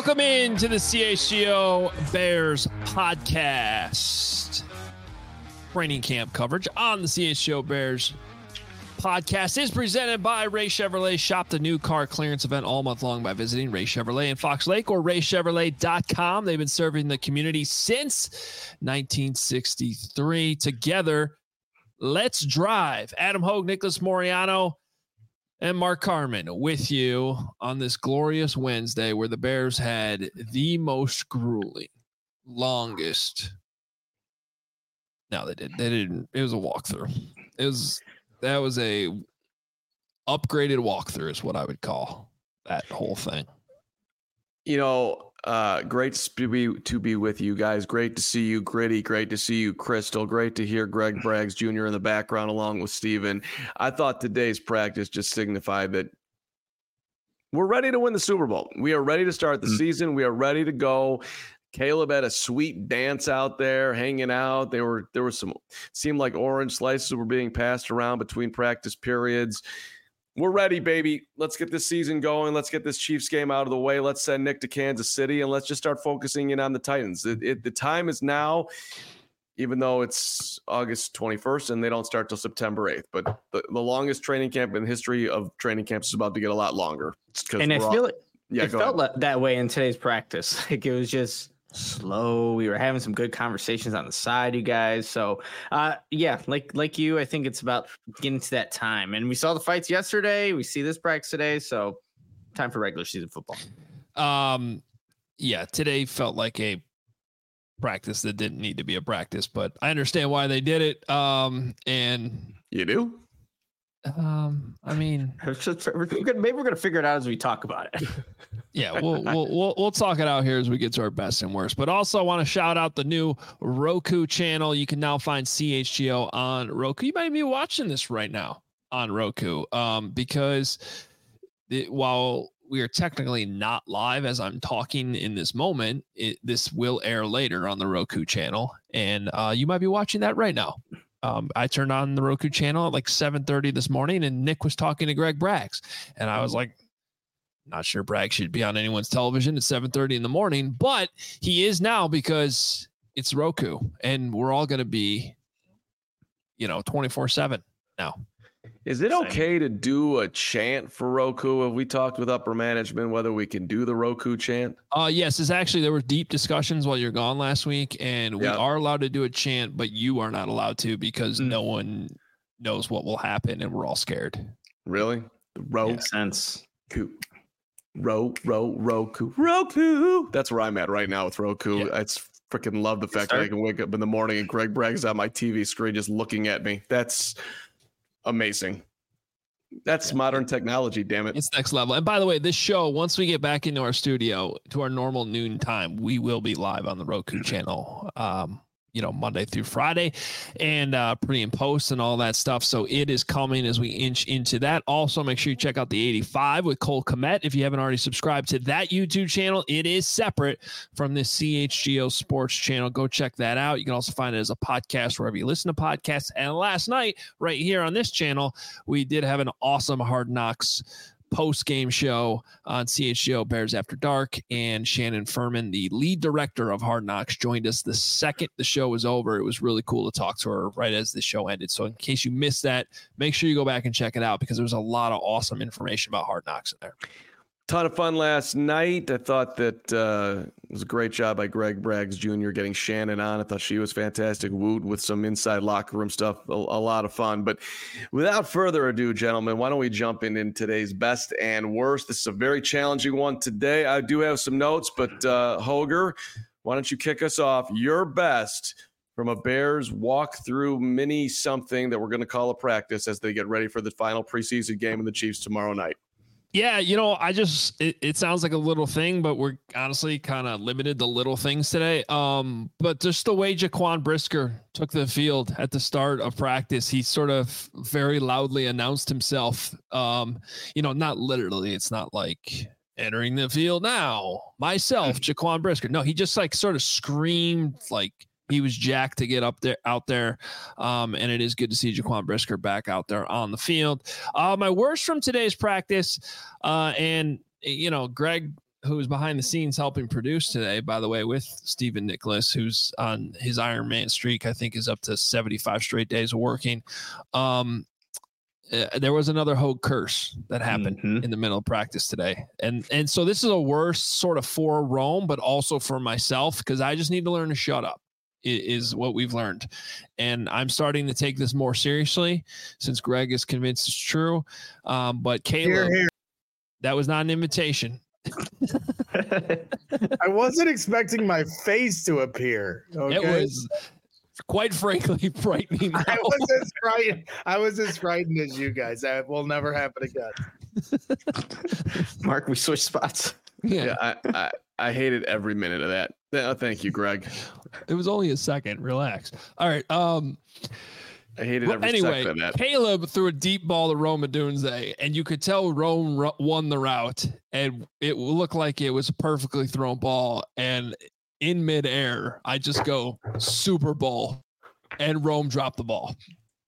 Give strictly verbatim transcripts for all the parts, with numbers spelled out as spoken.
Welcome into the C H G O Bears podcast. Training camp coverage on the C H G O Bears podcast is presented by Ray Chevrolet. Shop the new car clearance event all month long by visiting Ray Chevrolet in Fox Lake or ray chevrolet dot com. They've been serving the community since nineteen sixty-three. Together, let's drive. Adam Hogue, Nicholas Moriano, and Mark Carman with you on this glorious Wednesday where the Bears had the most grueling, longest. No, they did. They didn't. It was a walkthrough. It was that was a upgraded walkthrough is what I would call that whole thing. You know, uh, great to be to be with you guys. Great to see you, Gritty. Great to see you, Crystal. Great to hear Greg Braggs Junior in the background along with Steven. I thought today's practice just signified that we're ready to win the Super Bowl. We are ready to start the mm-hmm. season. We are ready to go. Caleb had a sweet dance out there, hanging out. They were there was some seemed like orange slices were being passed around between practice periods. We're ready, baby. Let's get this season going. Let's get this Chiefs game out of the way. Let's send Nick to Kansas City, and let's just start focusing in on the Titans. It, it, the time is now, even though it's August twenty-first and they don't start till September eighth. But the, the longest training camp in the history of training camps is about to get a lot longer. And I feel all, it, yeah, it felt ahead. that way in today's practice. Like it was just slow. We were having some good conversations on the side, you guys. So, uh, yeah, like like you, I think it's about getting to that time. And we saw the fights yesterday. We see this practice today. So, time for regular season football. Um, yeah, today felt like a practice that didn't need to be a practice, but I understand why they did it. Um, and you do. Um, I mean, we're gonna, maybe we're gonna figure it out as we talk about it. Yeah, we'll we'll we'll we'll talk it out here as we get to our best and worst. But also, I want to shout out the new Roku channel. You can now find C H G O on Roku. You might be watching this right now on Roku, um, because it, while we are technically not live as I'm talking in this moment, it, this will air later on the Roku channel, and uh, you might be watching that right now. Um, I turned on the Roku channel at like seven thirty this morning, and Nick was talking to Greg Braggs, and I was like, not sure Bragg should be on anyone's television at seven thirty in the morning, but he is now because it's Roku, and we're all going to be, you know, twenty-four seven now. Is it okay to do a chant for Roku? Have we talked with upper management whether we can do the Roku chant? Uh, yes, it's actually, there were deep discussions while you're gone last week, and we yeah. are allowed to do a chant, but you are not allowed to because mm. no one knows what will happen, and we're all scared. Really? The Roku. Makes sense. Ro, ro, Roku. Roku. That's where I'm at right now with Roku. Yeah. I freaking love the fact that I can wake up in the morning and Greg Bragg's on my T V screen just looking at me. That's amazing. That's yeah. modern technology, damn it. It's next level. And by the way, this show, once we get back into our studio to our normal noon time, we will be live on the Roku channel. Um, you know, Monday through Friday and uh, pre and post and all that stuff. So it is coming as we inch into that. Also, make sure you check out the eighty-five with Cole Kmet. If you haven't already subscribed to that YouTube channel, it is separate from this C H G O Sports channel. Go check that out. You can also find it as a podcast wherever you listen to podcasts. And last night, right here on this channel, we did have an awesome Hard Knocks post-game show on C H G O Bears After Dark, and Shannon Furman, the lead director of Hard Knocks, joined us the second the show was over. It was really cool to talk to her right as the show ended. So in case you missed that, make sure you go back and check it out because there was a lot of awesome information about Hard Knocks in there. Ton of fun last night. I thought that uh, it was a great job by Greg Braggs Junior getting Shannon on. I thought she was fantastic. Woot with some inside locker room stuff. A, a lot of fun. But without further ado, gentlemen, why don't we jump in in today's best and worst? This is a very challenging one today. I do have some notes, but uh, Hoger, why don't you kick us off? Your best from a Bears walk-through mini something that we're going to call a practice as they get ready for the final preseason game of the Chiefs tomorrow night. Yeah, you know, I just, it, it sounds like a little thing, but we're honestly kind of limited to little things today. Um, but just the way Jaquan Brisker took the field at the start of practice, he sort of very loudly announced himself. Um, you know, not literally, it's not like entering the field now, myself, Jaquan Brisker. No, he just like sort of screamed like he was jacked to get up there, out there. Um, and it is good to see Jaquan Brisker back out there on the field. Uh, my worst from today's practice, uh, and, you know, Greg who's behind the scenes helping produce today, by the way, with Stephen Nicholas, who's on his Iron Man streak, I think is up to seventy-five straight days of working. Um, uh, there was another Hogue curse that happened mm-hmm. in the middle of practice today. And, and so this is a worse sort of for Rome, but also for myself, because I just need to learn to shut up is what we've learned. And I'm starting to take this more seriously since Greg is convinced it's true. Um, but Caleb, here, here. That was not an invitation. I wasn't expecting my face to appear. Okay? It was quite frankly frightening. Now. I was as frightened. I was as frightened as you guys. That will never happen again. Mark, we switched spots. Yeah, yeah I, I I hated every minute of that. Oh, thank you, Greg. It was only a second. Relax. All right. Um, I hated every anyway, second of that. Caleb threw a deep ball to Rome Odunze, and you could tell Rome ro- won the route, and it looked like it was a perfectly thrown ball. And in midair, I just go Super Bowl, and Rome dropped the ball.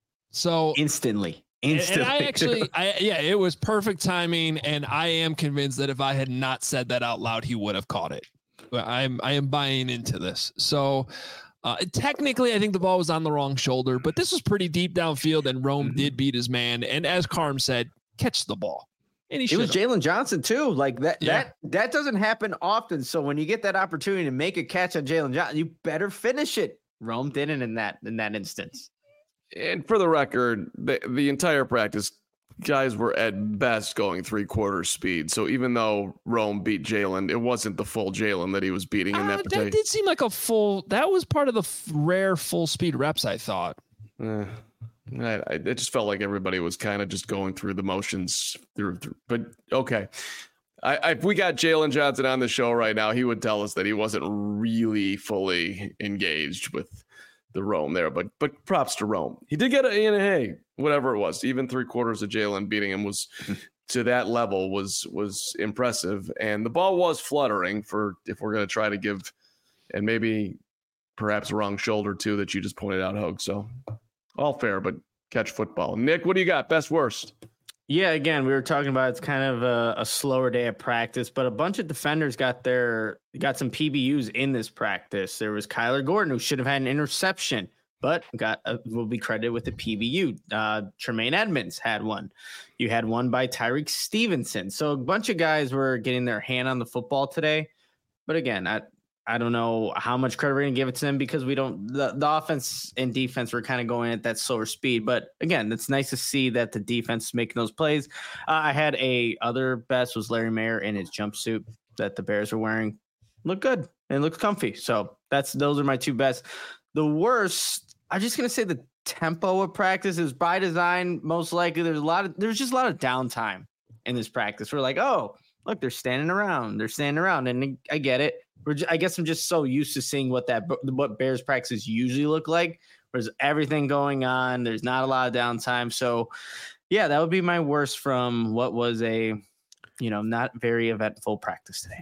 So instantly. Instantly. And I actually, I, yeah, it was perfect timing, and I am convinced that if I had not said that out loud, he would have caught it. But I'm, I am buying into this. So uh, technically, I think the ball was on the wrong shoulder, but this was pretty deep downfield, and Rome mm-hmm. did beat his man. And as Carm said, catch the ball. And he it was Jalen Johnson too. Like that, yeah. that, that doesn't happen often. So when you get that opportunity to make a catch on Jalen Johnson, you better finish it. Rome didn't in that in that instance. And for the record, the, the entire practice, guys were at best going three quarters speed. So even though Rome beat Jalen, it wasn't the full Jalen that he was beating in that. Uh, particular. That did seem like a full. That was part of the f- rare full speed reps, I thought. Uh, I, I, it just felt like everybody was kind of just going through the motions through. through but okay, I, I, if we got Jalen Johnson on the show right now, he would tell us that he wasn't really fully engaged with the Rome there, but but props to Rome. He did get a, and hey, whatever it was, even three quarters of Jalen beating him was to that level was was impressive. And the ball was fluttering for if we're going to try to give, and maybe perhaps wrong shoulder too that you just pointed out, Hogue. So all fair, but catch football. Nick, what do you got? Best worst? Yeah, again, we were talking about it's kind of a, a slower day of practice, but a bunch of defenders got their got some P B Us in this practice. There was Kyler Gordon, who should have had an interception, but got a, will be credited with a P B U. Uh, Tremaine Edmonds had one. You had one by Tyreek Stevenson. So a bunch of guys were getting their hand on the football today. But again, I I don't know how much credit we're going to give it to them because we don't the, the offense and defense were kind of going at that slower speed. But again, it's nice to see that the defense is making those plays. Uh, I had a other best was Larry Mayer in his jumpsuit that the Bears were wearing. Looked good and looked comfy. So that's those are my two best. The worst, I'm just going to say the tempo of practice is by design. Most likely there's a lot of there's just a lot of downtime in this practice. We're like, oh, look, they're standing around. They're standing around. And I get it. We're just, I guess I'm just so used to seeing what that what Bears practices usually look like. There's everything going on. There's not a lot of downtime. So, yeah, that would be my worst from what was a, you know, not very eventful practice today.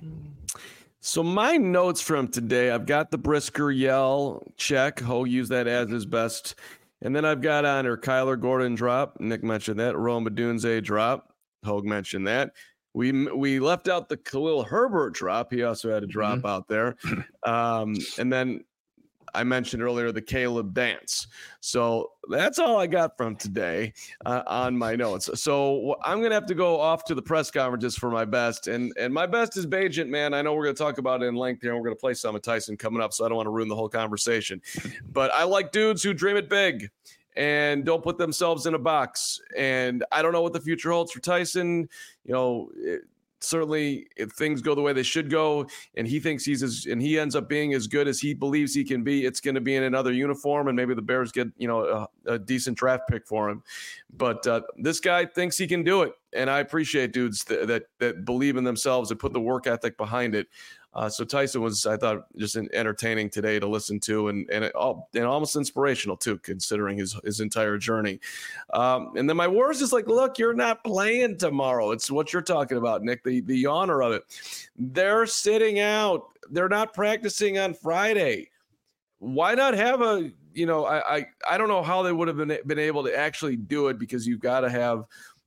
So my notes from today, I've got the Brisker yell check. Ho used that as his best. And then I've got on her Kyler Gordon drop. Nick mentioned that. Rome Odunze drop. Hogue mentioned that. We we left out the Khalil Herbert drop. He also had a drop mm-hmm. out there. Um, and then I mentioned earlier the Caleb dance. So that's all I got from today uh, on my notes. So I'm going to have to go off to the press conferences for my best. And and my best is Bagent, man. I know we're going to talk about it in length here. And we're going to play some of Tyson coming up, so I don't want to ruin the whole conversation. But I like dudes who dream it big and don't put themselves in a box. And I don't know what the future holds for Tyson. You know, it, certainly if things go the way they should go and he thinks he's as, and he ends up being as good as he believes he can be, it's going to be in another uniform and maybe the Bears get, you know, a, a decent draft pick for him. But uh, this guy thinks he can do it. And I appreciate dudes that, that, that believe in themselves and put the work ethic behind it. Uh, so Tyson was, I thought, just an entertaining today to listen to, and and, it, and almost inspirational too, considering his his entire journey. Um, and then my worst is like, look, you're not playing tomorrow. It's what you're talking about, Nick. The the honor of it. They're sitting out. They're not practicing on Friday. Why not have a? You know, I I, I don't know how they would have been been able to actually do it because you've got to have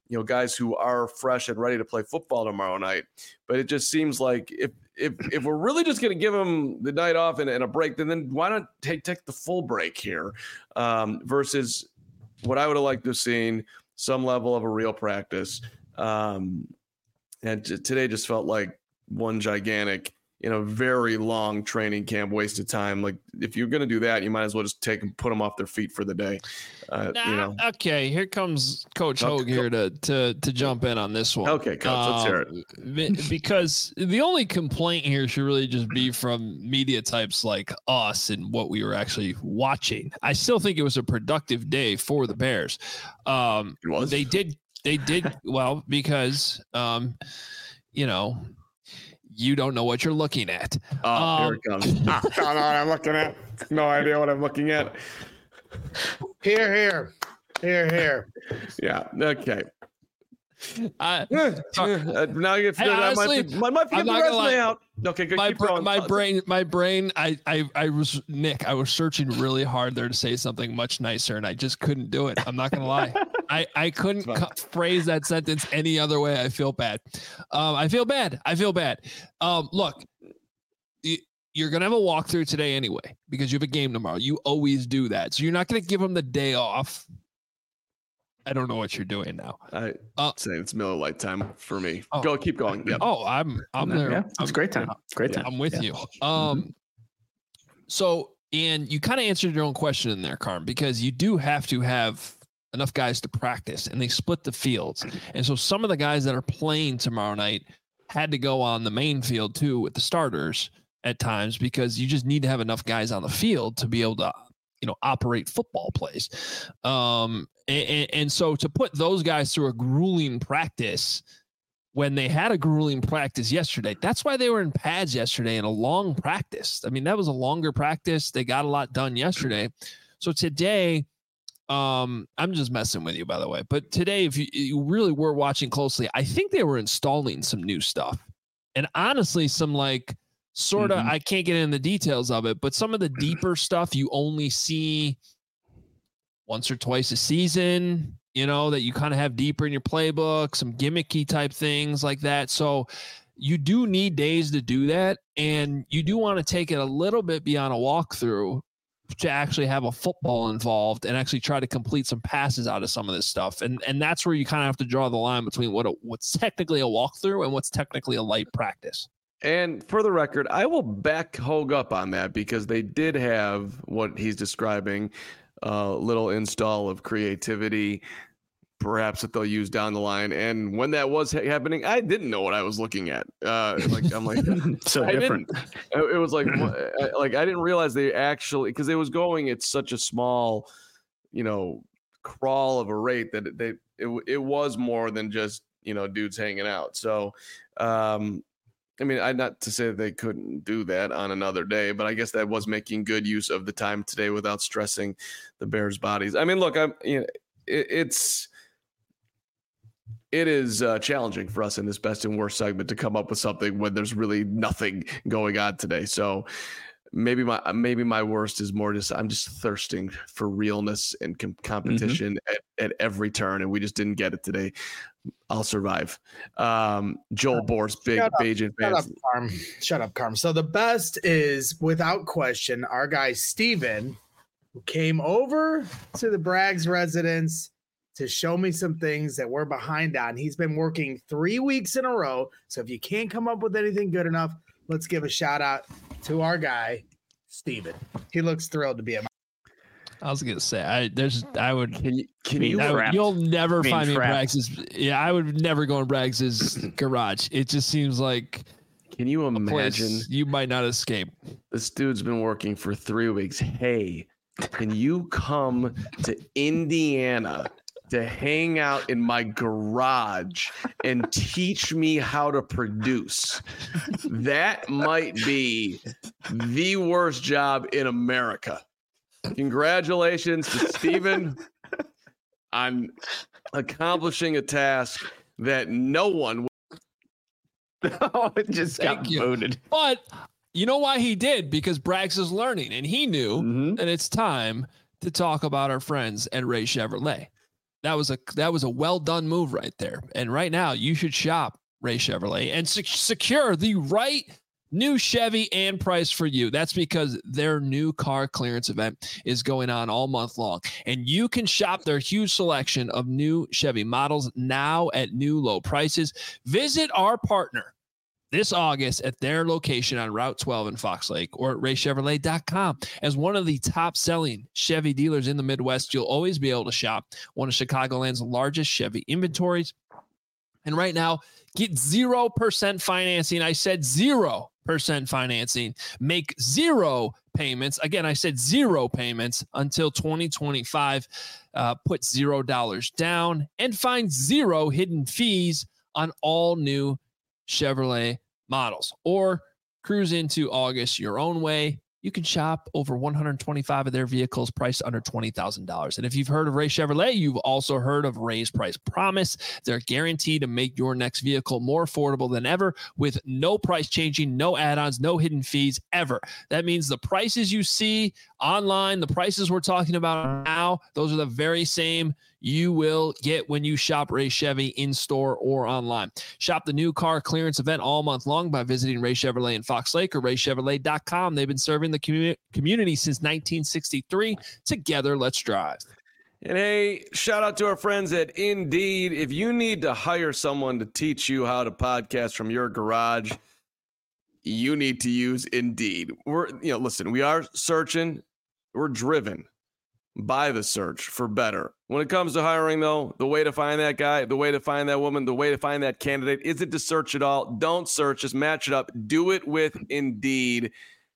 you know, guys who are fresh and ready to play football tomorrow night. But it just seems like if if if we're really just going to give them the night off and, and a break, then then why not take take the full break here um, versus what I would have liked to have seen some level of a real practice. Um, and t- today just felt like one gigantic, you know, very long training camp, waste of time. Like if you're going to do that, you might as well just take and put them off their feet for the day. Uh, nah, you know. Okay, here comes Coach Okay, Hogue here to to to jump in on this one. Okay, Coach, let's hear it. Because the only complaint here should really just be from media types like us and what we were actually watching. I still think it was a productive day for the Bears. Um, It was? They did. They did well because, um, you know, you don't know what you're looking at. Oh, Um, here it comes. I don't know what I'm looking at. No idea what I'm looking at. Here, here, here, here. Yeah. Okay. I, Uh, now you get Hey, I honestly, might, have to- I might have to I'm get the not gonna resume lie. out. Okay, good. my Keep br- going. my brain my brain I, I I was Nick I was searching really hard there to say something much nicer and I just couldn't do it. I'm not gonna lie. I I couldn't It's fine. cu- phrase that sentence any other way. I feel bad. Um, I feel bad. I feel bad. Um, look, y- you're gonna have a walkthrough today anyway because you have a game tomorrow. You always do that, so you're not gonna give them the day off. I don't know what you're doing now. I Uh, say it's Miller Lite time for me. Oh. Go, keep going. Yeah. Oh, I'm I'm there. Yeah, it's I'm- a great time. Great Yeah. time. I'm with Yeah. you. Um, so and you kind of answered your own question in there, Carm, because you do have to have enough guys to practice, and they split the fields, and so some of the guys that are playing tomorrow night had to go on the main field too with the starters at times because you just need to have enough guys on the field to be able to, you know, operate football plays. Um, and, and so to put those guys through a grueling practice when they had a grueling practice yesterday, that's why they were in pads yesterday in a long practice. I mean, that was a longer practice. They got a lot done yesterday. So today, um, I'm just messing with you, by the way, but today, if you, you really were watching closely, I think they were installing some new stuff and honestly, some like sort of, Mhm. I can't get into the details of it, but some of the deeper stuff you only see once or twice a season, you know, that you kind of have deeper in your playbook, some gimmicky type things like that. So you do need days to do that. And you do want to take it a little bit beyond a walkthrough to actually have a football involved and actually try to complete some passes out of some of this stuff. And and that's where you kind of have to draw the line between what a, what's technically a walkthrough and what's technically a light practice. And for the record, I will back Hogue up on that because they did have what he's describing, a little install of creativity, perhaps that they'll use down the line. And when that was ha- happening, I didn't know what I was looking at. Uh, like I'm like, So I different. it was like, what- I- like I didn't realize they actually because it was going at such a small, you know, crawl of a rate that they it it was more than just you know dudes hanging out. So. um I mean, I not to say that they couldn't do that on another day, but I guess that was making good use of the time today without stressing the Bears' bodies. I mean, look, I'm you know, it, it's it is uh, challenging for us in this best and worst segment to come up with something when there's really nothing going on today. So maybe my maybe my worst is more just I'm just thirsting for realness and com- competition Mm-hmm. at, at every turn, and we just didn't get it today. I'll survive. Um, Joel Boris, big Shut up. Bajan Shut up, fans. Carm. Shut up, Carm. So the best is, without question, our guy Steven, who came over to the Braggs residence to show me some things that we're behind on. He's been working three weeks in a row. So if you can't come up with anything good enough, let's give a shout out to our guy, Steven. He looks thrilled to be at my I was gonna say I there's I would Can you can Being you I would- trapped. you'll never Being find me in trapped. Braggs's. Yeah, I would never go in Braggs's garage. It just seems like can you a imagine place you might not escape. this dude's been working for three weeks? Hey, can you come to Indiana to hang out in my garage and teach me how to produce? That might be the worst job in America. Congratulations to Steven on accomplishing a task that no one Oh, it just got Thank you. voted. But you know why he did? Because Braggs is learning, and he knew Mhm. that it's time to talk about our friends at Ray Chevrolet. That was a that was a well done move right there. And right now, you should shop Ray Chevrolet and sec- secure the right new Chevy and price for you. That's because their new car clearance event is going on all month long, and you can shop their huge selection of new Chevy models now at new low prices. Visit our partner this August at their location on Route twelve in Fox Lake or at ray chevrolet dot com. As one of the top selling Chevy dealers in the Midwest, you'll always be able to shop one of Chicagoland's largest Chevy inventories. And right now, get zero percent financing. I said zero percent financing. Make zero payments. Again, I said zero payments until twenty twenty-five. Uh, put zero dollars down and find zero hidden fees on all new Chevrolet models, or cruise into August your own way. You can shop over one hundred twenty-five of their vehicles priced under twenty thousand dollars. And if you've heard of Ray Chevrolet, you've also heard of Ray's Price Promise. They're guaranteed to make your next vehicle more affordable than ever with no price changing, no add-ons, no hidden fees ever. That means the prices you see online, the prices we're talking about now, those are the very same you will get when you shop Ray Chevy in store or online. Shop the new car clearance event all month long by visiting Ray Chevrolet in Fox Lake or ray chevrolet dot com. They've been serving the commu- community since nineteen sixty-three. Together, let's drive. And hey, shout out to our friends at Indeed. If you need to hire someone to teach you how to podcast from your garage, you need to use Indeed. We're, you know, listen, we are searching, we're driven by the search for better. When it comes to hiring, though, the way to find that guy, the way to find that woman, the way to find that candidate isn't to search at all. Don't search, just match it up. Do it with Indeed.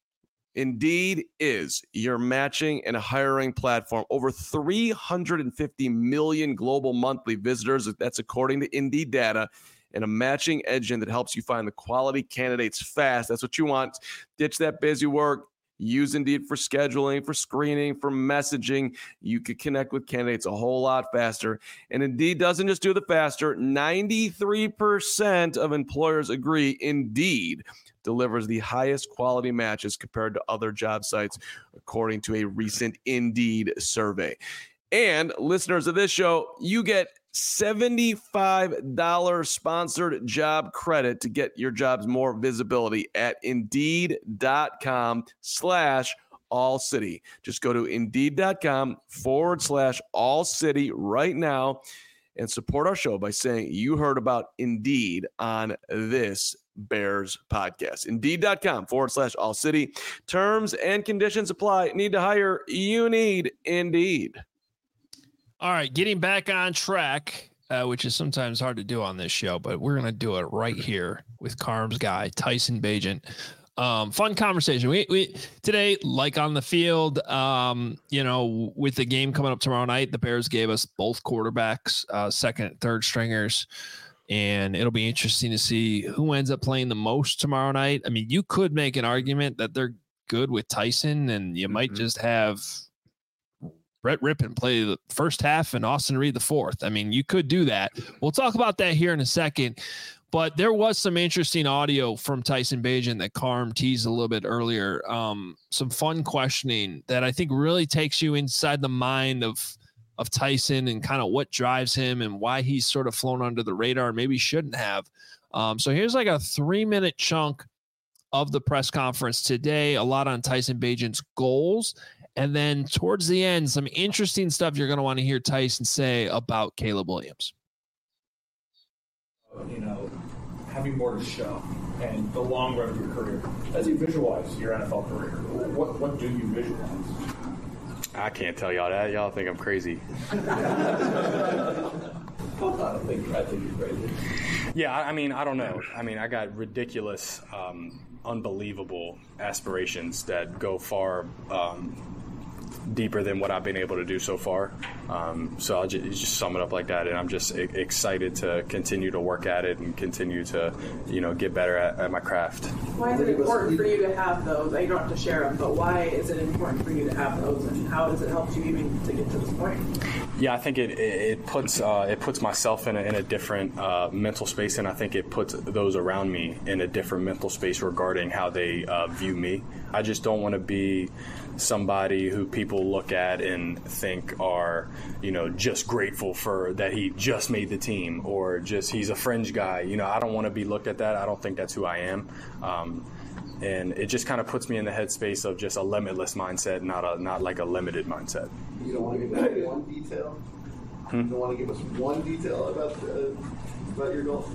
Indeed is your matching and hiring platform. Over three hundred fifty million global monthly visitors. That's according to Indeed data. And a matching engine that helps you find the quality candidates fast. That's what you want. Ditch that busy work. Use Indeed for scheduling, for screening, for messaging. You could connect with candidates a whole lot faster. And Indeed doesn't just do the faster. ninety-three percent of employers agree Indeed delivers the highest quality matches compared to other job sites, according to a recent Indeed survey. And listeners of this show, you get seventy-five dollars sponsored job credit to get your jobs more visibility at indeed.com slash all city. Just go to indeed.com forward slash all city right now and support our show by saying you heard about Indeed on this Bears podcast. Indeed.com forward slash all city. Terms and conditions apply. Need to hire? You need Indeed. All right, getting back on track, uh, which is sometimes hard to do on this show, but we're going to do it right here with Carm's guy, Tyson Bagent. Um, fun conversation. We, we today, like on the field, um, you know, with the game coming up tomorrow night, the Bears gave us both quarterbacks, uh, second and third stringers, and it'll be interesting to see who ends up playing the most tomorrow night. I mean, you could make an argument that they're good with Tyson, and you mm-hmm. might just have Brett Rippon play the first half and Austin Reed the fourth. I mean, you could do that. We'll talk about that here in a second. But there was some interesting audio from Tyson Bagent that Carm teased a little bit earlier. Um, some fun questioning that I think really takes you inside the mind of of Tyson and kind of what drives him and why he's sort of flown under the radar and maybe shouldn't have. Um, so here's like a three-minute chunk of the press conference today, a lot on Tyson Bagent's goals. And then towards the end, some interesting stuff you're going to want to hear Tyson say about Caleb Williams. You know, having more to show and the long run of your career. As you visualize your N F L career, what what do you visualize? I can't tell y'all that. Y'all think I'm crazy. I don't think I think you're crazy. Yeah, I mean, I don't know. I mean, I got ridiculous, um, unbelievable aspirations that go far um, deeper than what I've been able to do so far. Um, so I'll just, just sum it up like that. And I'm just e- excited to continue to work at it and continue to, you know, get better at, at my craft. Why is it important for you to have those? You don't have to share them, but why is it important for you to have those, and how does it help you even to get to this point? Yeah, I think it it puts uh, it puts myself in a, in a different uh, mental space, and I think it puts those around me in a different mental space regarding how they uh, view me. I just don't want to be somebody who people look at and think are, you know, just grateful for that he just made the team, or just he's a fringe guy. You know, I don't want to be looked at that. I don't think that's who I am. Um, and it just kind of puts me in the headspace of just a limitless mindset, not a not like a limited mindset. You don't want to give us one detail? Hmm? You don't want to give us one detail about the, about your goal?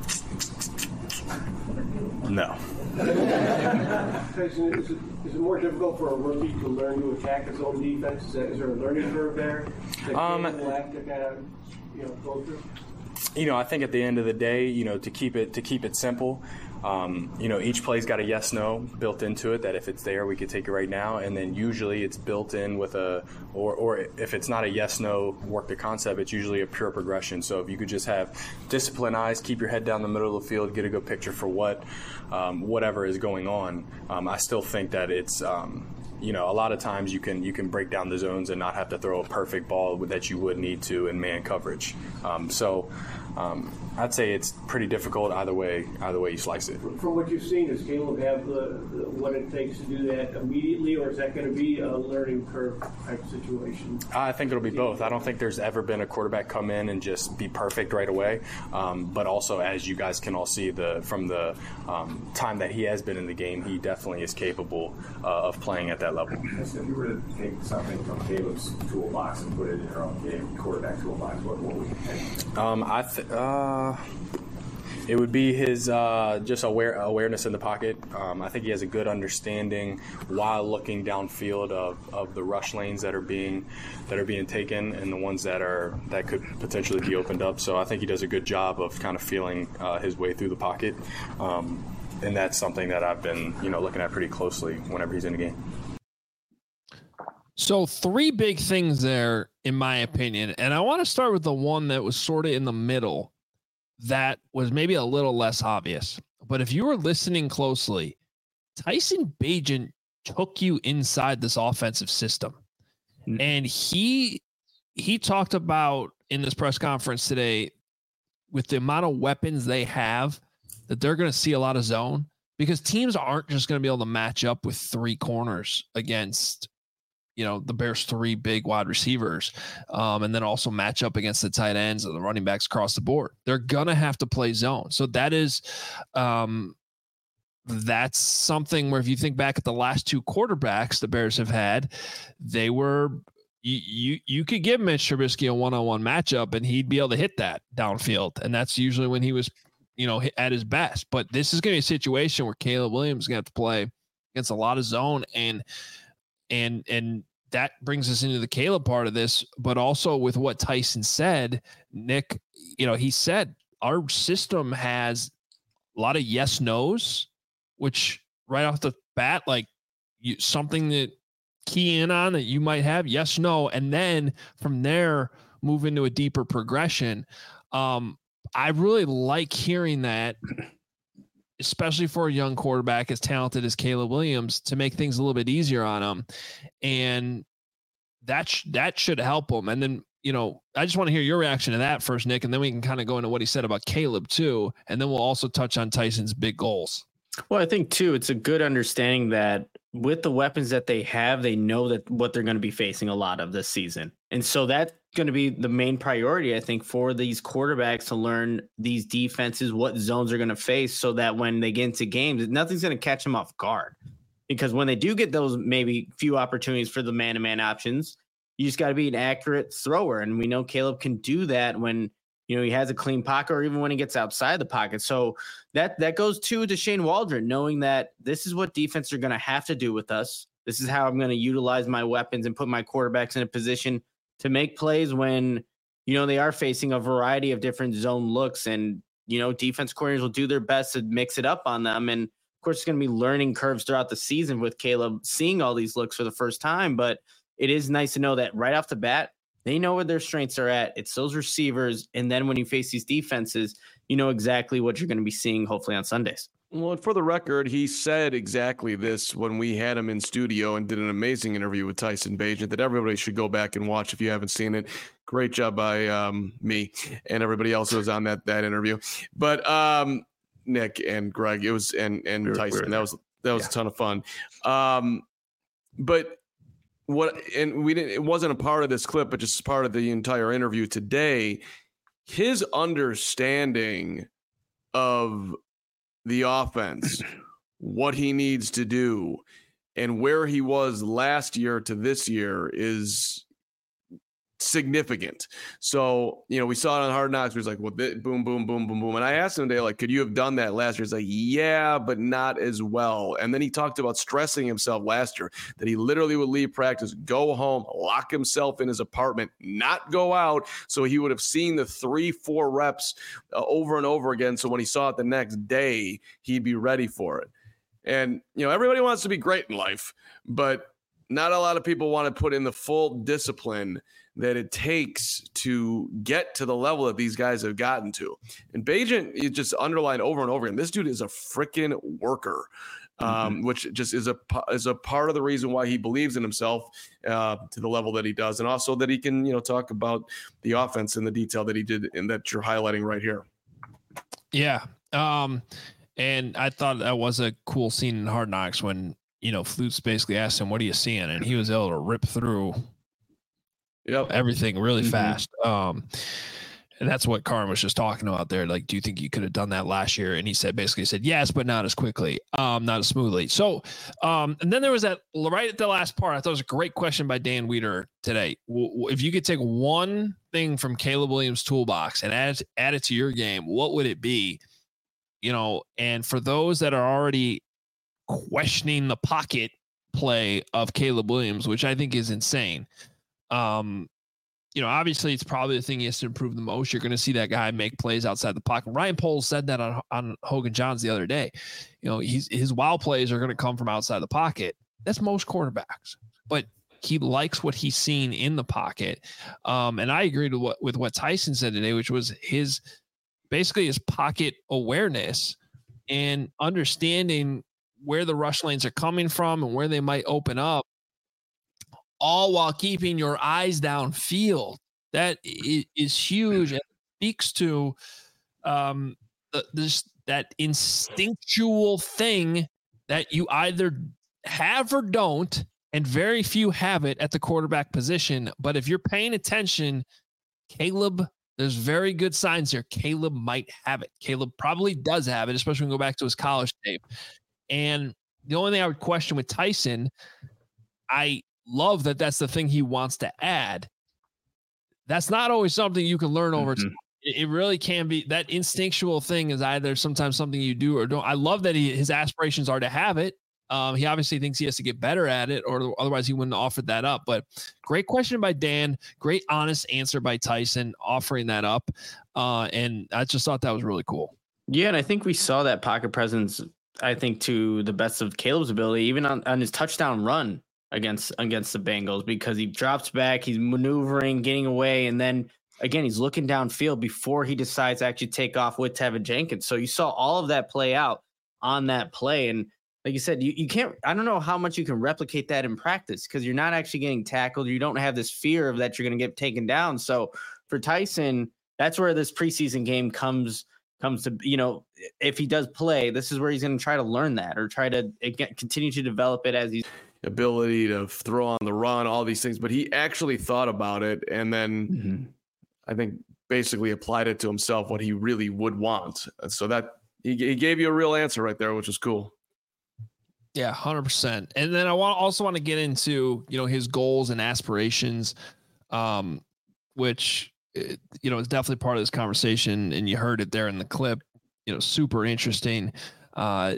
No. Tyson, is it, is it more difficult for a rookie to learn to attack his own defense? Is, that, is there a learning curve there that um, will have to kind of, you know, go through? You know, I think at the end of the day, you know, to keep it to keep it simple, um, you know, each play's got a yes/no built into it. That if it's there, we could take it right now, and then usually it's built in with a, or or if it's not a yes/no work the concept, it's usually a pure progression. So if you could just have disciplined eyes, keep your head down the middle of the field, get a good picture for what, um, whatever is going on. Um, I still think that it's. Um, You know, a lot of times you can you can break down the zones and not have to throw a perfect ball that you would need to in man coverage. Um, so um, I'd say it's pretty difficult either way. Either way you slice it. From what you've seen, does Caleb have the, the what it takes to do that immediately, or is that going to be a learning curve type situation? I think it'll be both. I don't think there's ever been a quarterback come in and just be perfect right away. Um, but also, as you guys can all see, the from the um, time that he has been in the game, he definitely is capable uh, of playing at that level. If you were to take something from Caleb's toolbox and put it in your own game, quarterback toolbox, what, what would you take? Um, I th- uh, it would be his uh, just aware awareness in the pocket. Um, I think he has a good understanding while looking downfield of, of the rush lanes that are being that are being taken and the ones that are that could potentially be opened up. So I think he does a good job of kind of feeling uh, his way through the pocket. Um, and that's something that I've been, you know, looking at pretty closely whenever he's in the game. So three big things there, in my opinion, and I want to start with the one that was sort of in the middle that was maybe a little less obvious. But if you were listening closely, Tyson Bagent took you inside this offensive system. Mm-hmm. And he he talked about in this press conference today, with the amount of weapons they have, that they're going to see a lot of zone, because teams aren't just going to be able to match up with three corners against, you know, the Bears' three big wide receivers, um, and then also match up against the tight ends and the running backs across the board. They're going to have to play zone. So that is, um, that's something where if you think back at the last two quarterbacks the Bears have had, they were, you, you, you could give Mitch Trubisky a one-on-one matchup and he'd be able to hit that downfield. And that's usually when he was, you know, at his best. But this is going to be a situation where Caleb Williams is going to have to play against a lot of zone, and, and, and, that brings us into the Caleb part of this, but also with what Tyson said, Nick, you know, he said our system has a lot of yes, no's, which right off the bat, like you, something that key in on that you might have yes, no. And then from there, move into a deeper progression. Um, I really like hearing that, especially for a young quarterback as talented as Caleb Williams, to make things a little bit easier on him. And that, sh- that should help him. And then, you know, I just want to hear your reaction to that first, Nick, and then we can kind of go into what he said about Caleb too. And then we'll also touch on Tyson's big goals. Well, I think too, it's a good understanding that with the weapons that they have, they know that what they're going to be facing a lot of this season. And so that's going to be the main priority, I think, for these quarterbacks to learn these defenses, what zones they're going to face, so that when they get into games, nothing's going to catch them off guard. Because when they do get those maybe few opportunities for the man-to-man options, you just got to be an accurate thrower. And we know Caleb can do that when, you know, he has a clean pocket, or even when he gets outside the pocket. So that that goes to Deshane Waldron, knowing that this is what defense are going to have to do with us. This is how I'm going to utilize my weapons and put my quarterbacks in a position to make plays when, you know, they are facing a variety of different zone looks, and, you know, defense coordinators will do their best to mix it up on them. And of course, it's going to be learning curves throughout the season with Caleb seeing all these looks for the first time. But it is nice to know that right off the bat, they know where their strengths are at. It's those receivers. And then when you face these defenses, you know exactly what you're going to be seeing, hopefully on Sundays. Well, and for the record, he said exactly this when we had him in studio and did an amazing interview with Tyson Bagent that everybody should go back and watch if you haven't seen it. Great job by um, me and everybody else who was on that that interview. But um, Nick and Greg, it was and and we were, Tyson, we were that was that was yeah. a ton of fun. Um, but what, and we didn't, it wasn't a part of this clip, but just part of the entire interview today, his understanding of the offense, what he needs to do, and where he was last year to this year is significant. So, you know, we saw it on Hard Knocks. He was like, well, boom, boom, boom, boom, boom. And I asked him today, like, could you have done that last year? He's like, yeah, but not as well. And then he talked about stressing himself last year, that he literally would leave practice, go home, lock himself in his apartment, not go out. So he would have seen the three, four reps uh, over and over again. So when he saw it the next day, he'd be ready for it. And, you know, everybody wants to be great in life, but not a lot of people want to put in the full discipline that it takes to get to the level that these guys have gotten to. And Bagent, you just underlined over and over again, this dude is a freaking worker, um, mm-hmm. which just is a is a part of the reason why he believes in himself uh, to the level that he does, and also that he can, you know, talk about the offense in the detail that he did and that you're highlighting right here. Yeah, um, and I thought that was a cool scene in Hard Knocks when, you know, Flutes basically asked him, "What are you seeing?" and he was able to rip through. Yep. Everything really mm-hmm. fast. Um, and that's what Carm was just talking about there. Like, do you think you could have done that last year? And he said, basically said, yes, but not as quickly, um, not as smoothly. So, um, and then there was that right at the last part. I thought it was a great question by Dan Weeder today. If you could take one thing from Caleb Williams' toolbox and add, add it to your game, what would it be? You know, and for those that are already questioning the pocket play of Caleb Williams, which I think is insane. Um, you know, obviously it's probably the thing he has to improve the most. You're going to see that guy make plays outside the pocket. Ryan Poles said that on, on Hogan Johns the other day. You know, he's, his wild plays are going to come from outside the pocket. That's most quarterbacks, but he likes what he's seen in the pocket. Um, and I agreed with what, with what Tyson said today, which was his, basically his pocket awareness and understanding where the rush lanes are coming from and where they might open up, all while keeping your eyes downfield. That is huge and speaks to um, the, this that instinctual thing that you either have or don't, and very few have it at the quarterback position. But if you're paying attention, Caleb, there's very good signs here. Caleb might have it. Caleb probably does have it, especially when we go back to his college tape. And the only thing I would question with Tyson, I love that that's the thing he wants to add. That's not always something you can learn over mm-hmm. time. It really can be. That instinctual thing is either sometimes something you do or don't. I love that he, his aspirations are to have it. Um, he obviously thinks he has to get better at it, or otherwise he wouldn't have offered that up. But great question by Dan. Great, honest answer by Tyson, offering that up. Uh, and I just thought that was really cool. Yeah, and I think we saw that pocket presence, I think, to the best of Caleb's ability, even on, on his touchdown run against against the Bengals, because he drops back, he's maneuvering, getting away, and then again he's looking downfield before he decides to actually take off with Tevin Jenkins. So you saw all of that play out on that play, and like you said, you, you can't, I don't know how much you can replicate that in practice, because you're not actually getting tackled. You don't have this fear of that you're going to get taken down. So for Tyson, that's where this preseason game comes comes to, you know, if he does play, this is where he's going to try to learn that, or try to again, continue to develop it as he's ability to throw on the run, all these things. But he actually thought about it, and then mm-hmm. I think basically applied it to himself, what he really would want. So that he, he gave you a real answer right there, which is cool. Yeah, one hundred percent. And then I want also want to get into, you know, his goals and aspirations, um, which, you know, is definitely part of this conversation. And you heard it there in the clip, you know, super interesting uh,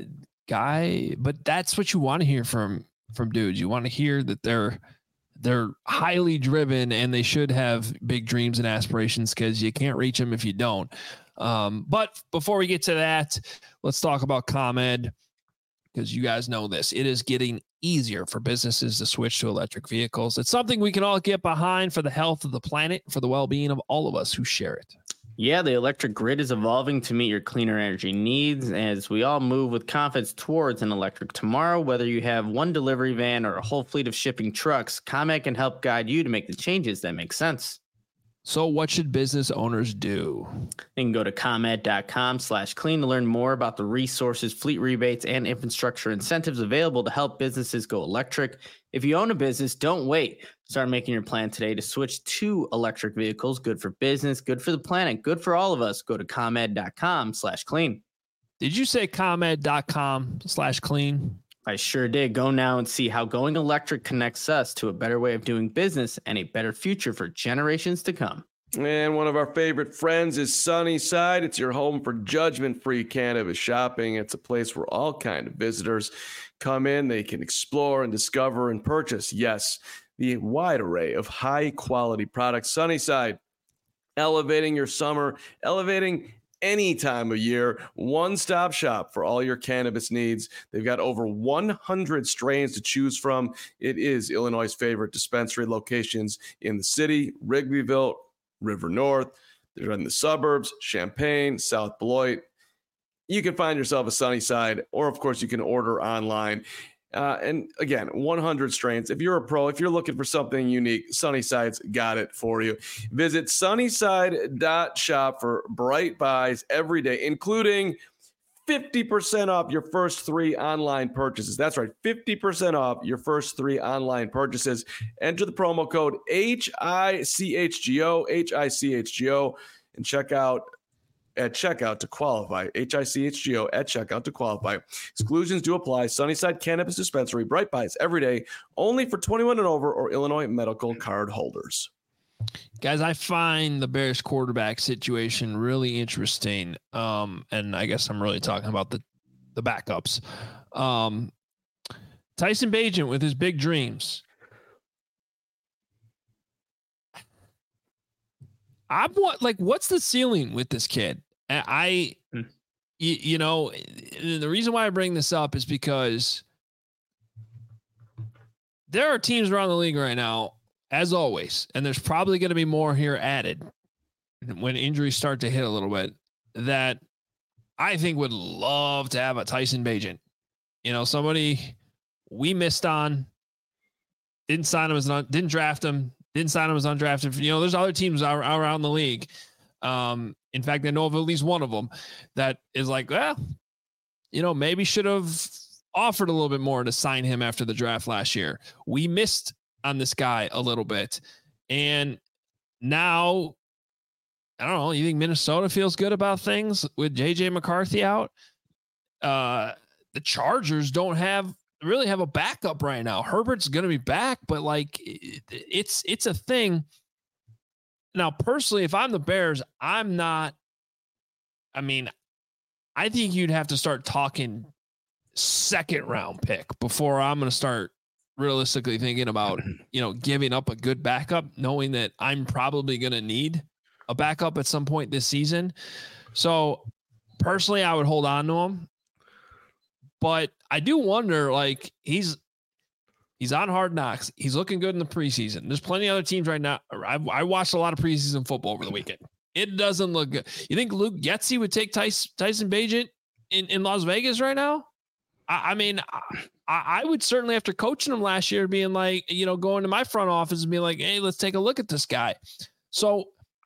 guy. But that's what you want to hear from from dudes. You want to hear that they're they're highly driven and they should have big dreams and aspirations, because you can't reach them if you don't. Um, but before we get to that, let's talk about ComEd, because you guys know this. It is getting easier for businesses to switch to electric vehicles. It's something we can all get behind for the health of the planet, for the well-being of all of us who share it. Yeah, the electric grid is evolving to meet your cleaner energy needs as we all move with confidence towards an electric tomorrow. Whether you have one delivery van or a whole fleet of shipping trucks, ComEd can help guide you to make the changes that make sense. So what should business owners do? You can go to ComEd.com slash clean to learn more about the resources, fleet rebates, and infrastructure incentives available to help businesses go electric. If you own a business, don't wait. Start making your plan today to switch to electric vehicles. Good for business, good for the planet, good for all of us. Go to ComEd.com slash clean. Did you say ComEd.com slash clean? I sure did. Go now and see how going electric connects us to a better way of doing business and a better future for generations to come. And one of our favorite friends is Sunnyside. It's your home for judgment-free cannabis shopping. It's a place where all kind of visitors come in. They can explore and discover and purchase, yes, the wide array of high-quality products. Sunnyside, elevating your summer, elevating any time of year, one-stop shop for all your cannabis needs. They've got over one hundred strains to choose from. It is Illinois' favorite dispensary locations in the city, Wrigleyville, River North. They're in the suburbs, Champaign, South Beloit. You can find yourself a Sunnyside, or of course you can order online. Uh, and again, one hundred strains. If you're a pro, if you're looking for something unique, Sunnyside's got it for you. Visit sunnyside dot shop for bright buys every day, including fifty percent off your first three online purchases. That's right, fifty percent off your first three online purchases. Enter the promo code H I C H G O, H I C H G O, and check out at checkout to qualify. H I C H G O at checkout to qualify. Exclusions do apply. Sunnyside Cannabis Dispensary, bright buys every day, only for twenty-one and over or Illinois medical card holders. Guys, I find the Bears quarterback situation really interesting. Um, and I guess I'm really talking about the, the backups. Um, Tyson Bagent with his big dreams. I'm what like what's the ceiling with this kid? I, I hmm. you, you know, the reason why I bring this up is because there are teams around the league right now, as always, and there's probably going to be more here added when injuries start to hit a little bit, that I think would love to have a Tyson Bagent. You know, somebody we missed on, didn't sign him as an, didn't draft him. Didn't sign him as undrafted. You know, there's other teams around the league. Um, in fact, I know of at least one of them that is like, well, you know, maybe should have offered a little bit more to sign him after the draft last year. We missed on this guy a little bit. And now, I don't know, you think Minnesota feels good about things with J J McCarthy out? Uh, the Chargers don't have really have a backup right now. Herbert's going to be back, but like it, it's, it's a thing. Now, personally, if I'm the Bears, I'm not, I mean, I think you'd have to start talking second round pick before I'm going to start realistically thinking about, you know, giving up a good backup, knowing that I'm probably going to need a backup at some point this season. So personally, I would hold on to him. But I do wonder, like, he's he's on Hard Knocks. He's looking good in the preseason. There's plenty of other teams right now. I, I watched a lot of preseason football over the weekend. It doesn't look good. You think Luke Getsy would take Tyson, Tyson Bagent in, in Las Vegas right now? I, I mean, I, I would certainly, after coaching him last year, being like, you know, going to my front office and being like, hey, let's take a look at this guy. So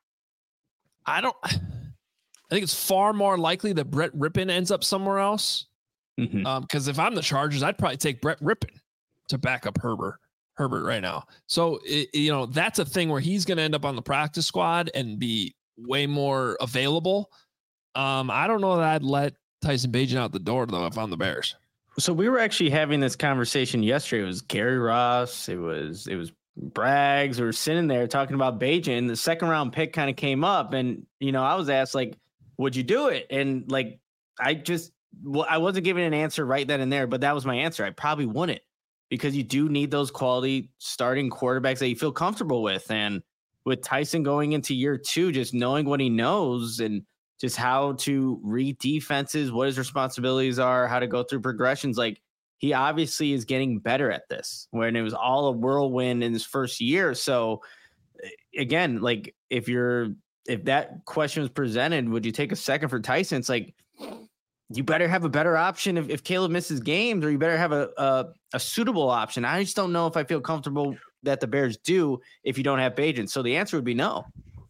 I don't, I think it's far more likely that Brett Rippon ends up somewhere else. Mm-hmm. Um, because if I'm the Chargers, I'd probably take Brett Rippon to back up Herbert, Herbert right now. So, it, you know, that's a thing where he's going to end up on the practice squad and be way more available. Um, I don't know that I'd let Tyson Bagent out the door, though, if I'm the Bears. So we were actually having this conversation yesterday. It was Gary Ross. It was, it was Braggs. We were sitting there talking about Bagent, and the second round pick kind of came up. And, you know, I was asked, like, would you do it? And, like, I just, well, I wasn't giving an answer right then and there, but that was my answer. I probably wouldn't, because you do need those quality starting quarterbacks that you feel comfortable with. And with Tyson going into year two, just knowing what he knows and just how to read defenses, what his responsibilities are, how to go through progressions, like, he obviously is getting better at this, when it was all a whirlwind in his first year. So again, like, if you're, if that question was presented, would you take a second for Tyson? It's like, you better have a better option if, if Caleb misses games, or you better have a, a a suitable option. I just don't know if I feel comfortable that the Bears do if you don't have Bagent. So the answer would be no.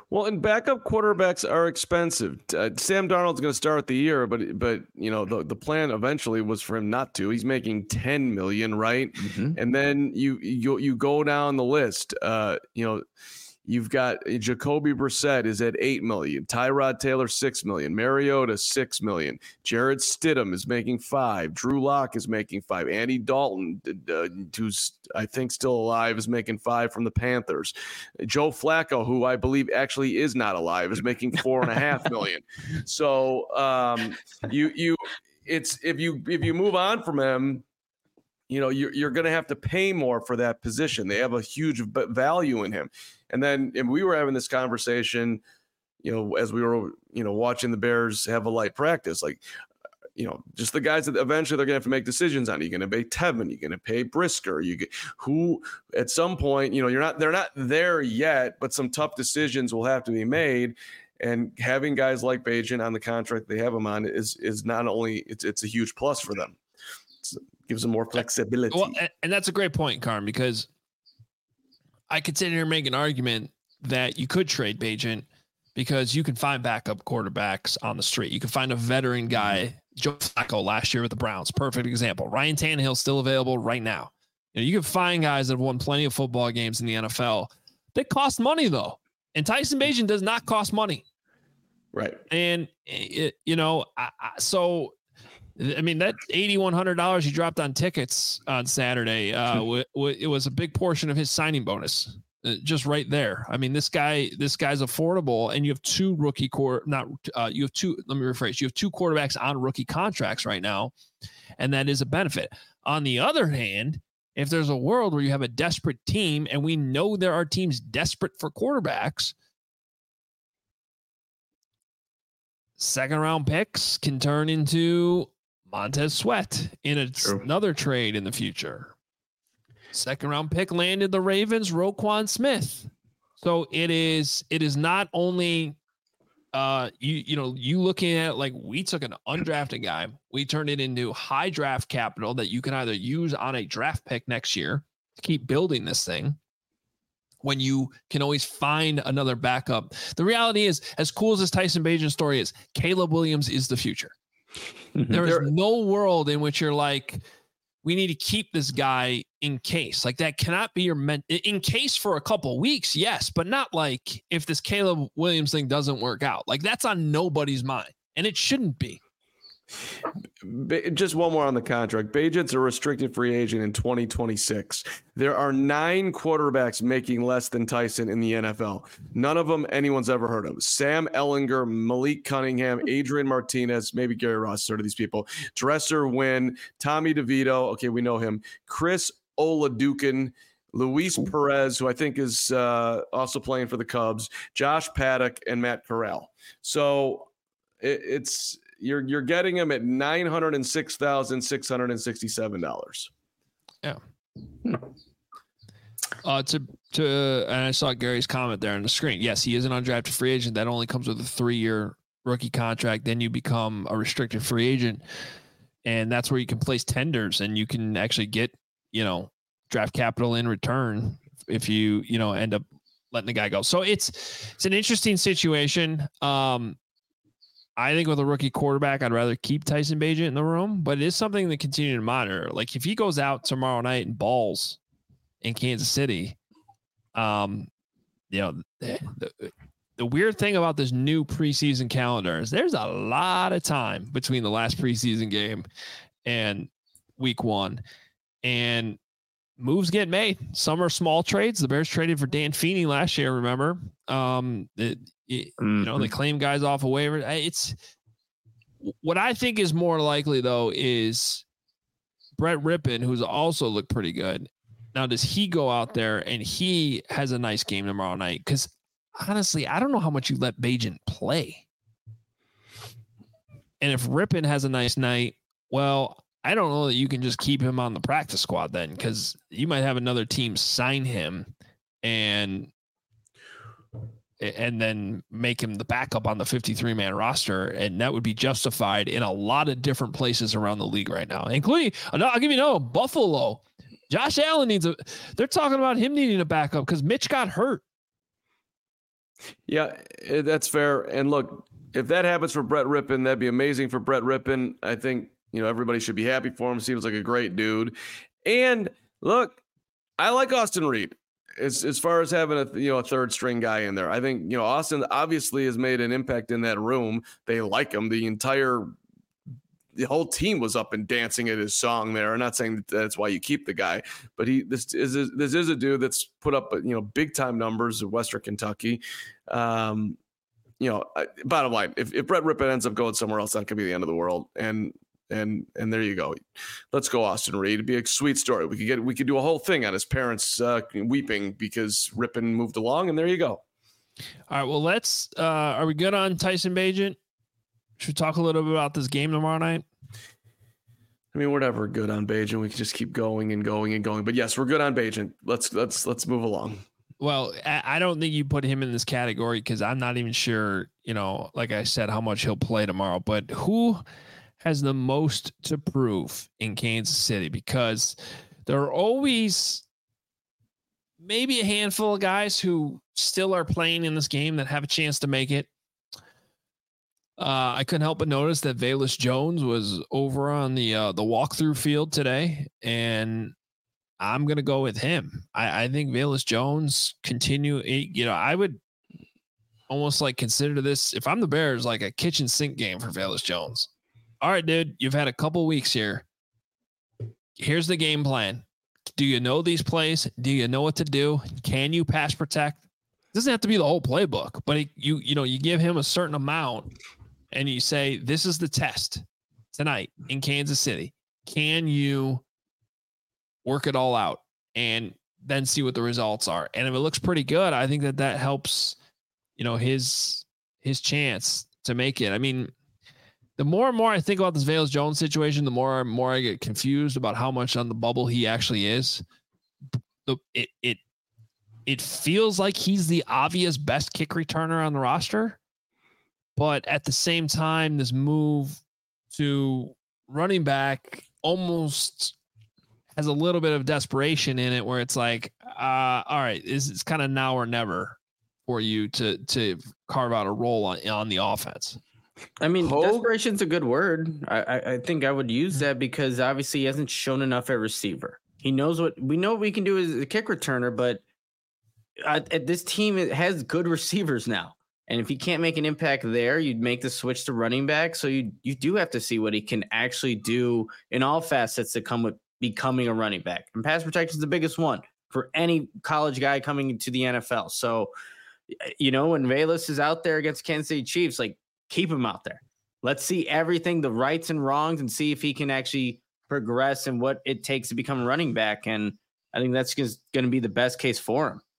Well, and backup quarterbacks are expensive. Uh, Sam Darnold's going to start the year, but but you know the, the plan eventually was for him not to. He's making ten million, right? Mm-hmm. And then you you you go down the list. Uh, you know, you've got Jacoby Brissett is at eight million, Tyrod Taylor six million, Mariota six million, Jared Stidham is making five, Drew Lock is making five, Andy Dalton, uh, who's I think still alive, is making five from the Panthers. Joe Flacco, who I believe actually is not alive, is making four and a half million. So um, you you it's if you if you move on from him, you know you're you're going to have to pay more for that position. They have a huge value in him. And then and we were having this conversation, you know, as we were you know watching the Bears have a light practice, like. You know, just the guys that eventually they're going to have to make decisions on. Are you going to pay Tevin? Are you going to pay Brisker? You get who at some point, you know, you're not, they're not there yet, but some tough decisions will have to be made. And having guys like Bagent on the contract they have him on is, is not only it's, it's a huge plus for them. It's, it gives them more flexibility. Well, and that's a great point, Carm, because I could sit here and make an argument that you could trade Bagent because you can find backup quarterbacks on the street. You can find a veteran guy. Joe Flacco last year with the Browns, perfect example. Ryan Tannehill still available right now. You know, you can find guys that have won plenty of football games in the N F L. They cost money though, and Tyson Bagent does not cost money, right? And it, you know, I, I, so I mean that eighty-one hundred dollars he dropped on tickets on Saturday, uh, w- w- it was a big portion of his signing bonus. Uh, just right there. I mean, this guy, this guy's affordable, and you have two rookie core, not uh, you have two. Let me rephrase. You have two quarterbacks on rookie contracts right now, and that is a benefit. On the other hand, if there's a world where you have a desperate team, and we know there are teams desperate for quarterbacks, second round picks can turn into Montez Sweat in a, another trade in the future. Second round pick landed the Ravens, Roquan Smith. So it is, it is not only, uh, you, you know, you looking at it like we took an undrafted guy, we turned it into high draft capital that you can either use on a draft pick next year to keep building this thing when you can always find another backup. The reality is, as cool as this Tyson Bagent story is, Caleb Williams is the future. There is no world in which you're like, we need to keep this guy in case. Like that cannot be your men in case for a couple weeks. Yes, but not like if this Caleb Williams thing doesn't work out. Like that's on nobody's mind, and it shouldn't be. Just one more on the contract. Bagent's a restricted free agent in twenty twenty-six. There are nine quarterbacks making less than Tyson in the N F L. None of them anyone's ever heard of. Sam Ehlinger, Malik Cunningham, Adrian Martinez, maybe Gary Ross, sort of these people. Dresser Wynn, Tommy DeVito. Okay, we know him. Chris Oladukin, Luis Perez, who I think is uh, also playing for the Cubs, Josh Paddock, and Matt Corral. So it, it's you're you're getting him at nine hundred and six thousand six hundred and sixty-seven dollars. Yeah. Uh, to to and I saw Gary's comment there on the screen. Yes, he is an undrafted free agent. That only comes with a three-year rookie contract. Then you become a restricted free agent, and that's where you can place tenders, and you can actually get, you know, draft capital in return if you you know end up letting the guy go. So it's it's an interesting situation. Um, I think with a rookie quarterback, I'd rather keep Tyson Bagent in the room, but it is something to continue to monitor. Like if he goes out tomorrow night and balls in Kansas City, um, you know, the, the, the weird thing about this new preseason calendar is there's a lot of time between the last preseason game and week one, and moves get made. Some are small trades. The Bears traded for Dan Feeney last year, remember? Um, it, it, mm-hmm. You know, they claim guys off a waiver. It's what I think is more likely, though, is Brett Rippon, who's also looked pretty good. Now, does he go out there and he has a nice game tomorrow night? Because honestly, I don't know how much you let Bagent play. And if Rippon has a nice night, well, I don't know that you can just keep him on the practice squad then, because you might have another team sign him and and then make him the backup on the fifty-three man roster. And that would be justified in a lot of different places around the league right now, including, I'll give you no Buffalo. Josh Allen needs a, they're talking about him needing a backup because Mitch got hurt. Yeah, that's fair. And look, if that happens for Brett Rippon, that'd be amazing for Brett Rippon. I think, you know, everybody should be happy for him. Seems like a great dude. And look, I like Austin Reed as, as far as having a, you know, a third string guy in there. I think, you know, Austin obviously has made an impact in that room. They like him. The entire, the whole team was up and dancing at his song there. I'm not saying that that's why you keep the guy, but he, this is, a, this is a dude that's put up, you know, big time numbers at Western Kentucky. Um, you know, bottom line, if, if Brett Rippon ends up going somewhere else, that could be the end of the world. And, and, and there you go. Let's go, Austin Reed. It'd be a sweet story. We could get, we could do a whole thing on his parents uh, weeping because Rippon moved along, and there you go. All right. Well, let's, uh, are we good on Tyson Bagent? Should we talk a little bit about this game tomorrow night? I mean, we're never good on Bagent. We can just keep going and going and going, but yes, we're good on Bagent. Let's, let's, let's move along. Well, I don't think you put him in this category because I'm not even sure, you know, like I said, how much he'll play tomorrow. But who has the most to prove in Kansas City? Because there are always maybe a handful of guys who still are playing in this game that have a chance to make it. Uh, I couldn't help but notice that Velus Jones was over on the uh, the walkthrough field today, and I'm going to go with him. I, I think Velus Jones continue, you know, I would almost like consider this, if I'm the Bears, like a kitchen sink game for Velus Jones. All right, dude, you've had a couple weeks here. Here's the game plan. Do you know these plays? Do you know what to do? Can you pass protect? It doesn't have to be the whole playbook, but it, you, you know, you give him a certain amount and you say, this is the test tonight in Kansas City. Can you work it all out and then see what the results are? And if it looks pretty good, I think that that helps, you know, his, his chance to make it. I mean, the more and more I think about this Velus Jones situation, the more and more I get confused about how much on the bubble he actually is. The, it, it, it feels like he's the obvious best kick returner on the roster, but at the same time, this move to running back almost has a little bit of desperation in it where it's like, uh, all right, it's, it's kind of now or never for you to, to carve out a role on, on the offense. I mean, Hope. Desperation's a good word. I, I, I think I would use that because obviously he hasn't shown enough at receiver. He knows what we know what we can do as a kick returner, but at, at this team, it has good receivers now. And if he can't make an impact there, you'd make the switch to running back. So you you do have to see what he can actually do in all facets that come with becoming a running back. And pass protection is the biggest one for any college guy coming into the N F L. So, you know, when Velus is out there against Kansas City Chiefs, like, keep him out there. Let's see everything, the rights and wrongs, and see if he can actually progress and what it takes to become a running back. And I think that's just going to be the best case for him.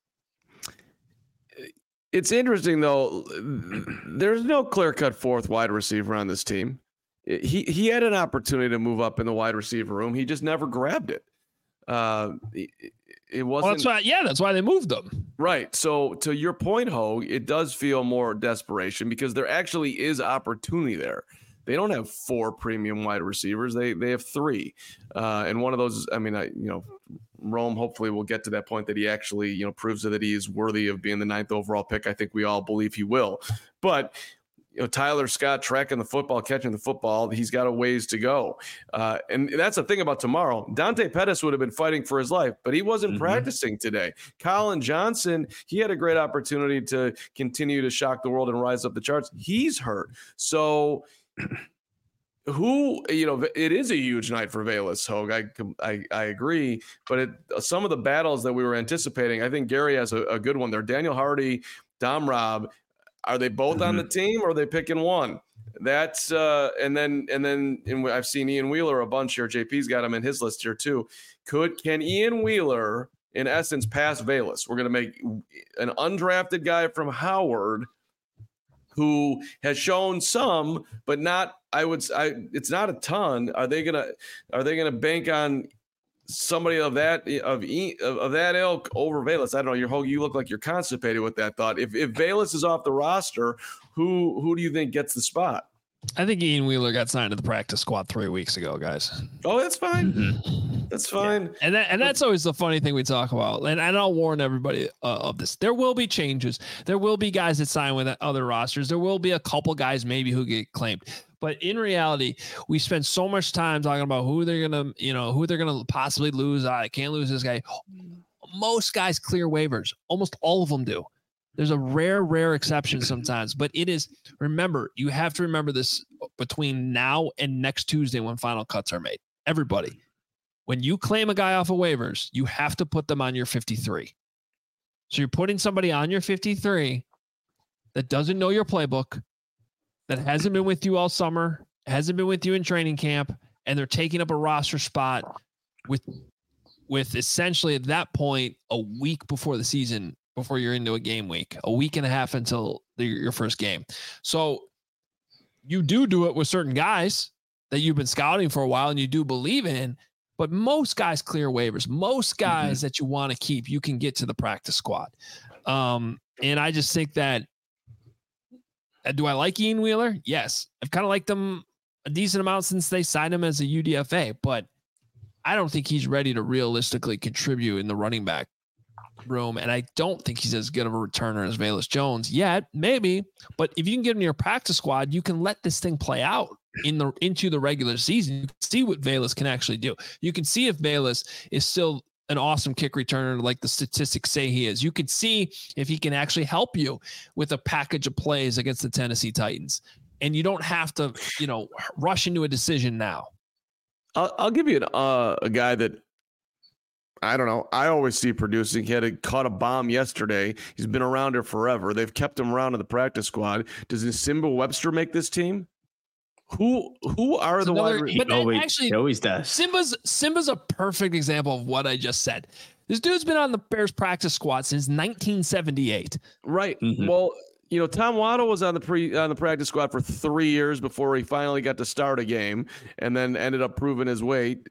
It's interesting, though. There's no clear-cut fourth wide receiver on this team. He he had an opportunity to move up in the wide receiver room. He just never grabbed it. Uh, it, it wasn't. Well, that's why, yeah, that's why they moved him. Right. So to your point, Ho, it does feel more desperation because there actually is opportunity there. They don't have four premium wide receivers. They they have three, uh, and one of those. I mean, I you know, Rome. Hopefully, will get to that point that he actually you know proves that he is worthy of being the ninth overall pick. I think we all believe he will, but. You know, Tyler Scott tracking the football, catching the football. He's got a ways to go. Uh, and that's the thing about tomorrow. Dante Pettis would have been fighting for his life, but he wasn't mm-hmm. practicing today. Colin Johnson, he had a great opportunity to continue to shock the world and rise up the charts. He's hurt. So who, you know, it is a huge night for Velus, Hogue. I, I, I agree. But it, some of the battles that we were anticipating, I think Gary has a, a good one there. Daniel Hardy, Dom Robb, are they both mm-hmm. on the team or are they picking one? That's uh, and then and then and I've seen Ian Wheeler a bunch here. J P's got him in his list here too. Could can Ian Wheeler in essence pass Velus? We're going to make an undrafted guy from Howard who has shown some, but not. I would. I. It's not a ton. Are they gonna? Are they gonna bank on somebody of that of of that ilk over Velus? I don't know. You're you look like you're constipated with that thought. If if Velus is off the roster, who who do you think gets the spot? I think Ian Wheeler got signed to the practice squad three weeks ago, guys. Oh, that's fine. Mm-hmm. That's fine. Yeah. And that, and that's always the funny thing we talk about. And, and I'll warn everybody uh, of this. There will be changes. There will be guys that sign with other rosters. There will be a couple guys maybe who get claimed. But in reality, we spend so much time talking about who they're gonna, you know, who they're gonna possibly lose. I can't lose this guy. Most guys clear waivers. Almost all of them do. There's a rare, rare exception sometimes, but it is, remember, you have to remember this between now and next Tuesday when final cuts are made. Everybody, when you claim a guy off of waivers, you have to put them on your fifty-three. So you're putting somebody on your fifty-three that doesn't know your playbook, that hasn't been with you all summer, hasn't been with you in training camp, and they're taking up a roster spot with, with essentially at that point, a week before the season, before you're into a game week, a week and a half until the, your first game. So you do do it with certain guys that you've been scouting for a while and you do believe in, but most guys clear waivers. Most guys mm-hmm. that you want to keep, you can get to the practice squad. Um, and I just think that, uh, do I like Ian Wheeler? Yes. I've kind of liked him a decent amount since they signed him as a U D F A, but I don't think he's ready to realistically contribute in the running back room, and I don't think he's as good of a returner as Velus Jones yet. Maybe, but if you can get him to your practice squad, you can let this thing play out in the into the regular season. You can see what Velus can actually do. You can see if Velus is still an awesome kick returner like the statistics say he is. You can see if he can actually help you with a package of plays against the Tennessee Titans, and you don't have to, you know, rush into a decision now. I'll, I'll give you an, uh, a guy that I don't know. I always see producing. He had a, caught a bomb yesterday. He's been around here forever. They've kept him around in the practice squad. Does Nsimba Webster make this team? Who who are it's the another, wide? But always, actually, he always does. Simba's Simba's a perfect example of what I just said. This dude's been on the Bears practice squad since nineteen seventy-eight. Right. Mm-hmm. Well, you know, Tom Waddle was on the pre on the practice squad for three years before he finally got to start a game, and then ended up proving his weight.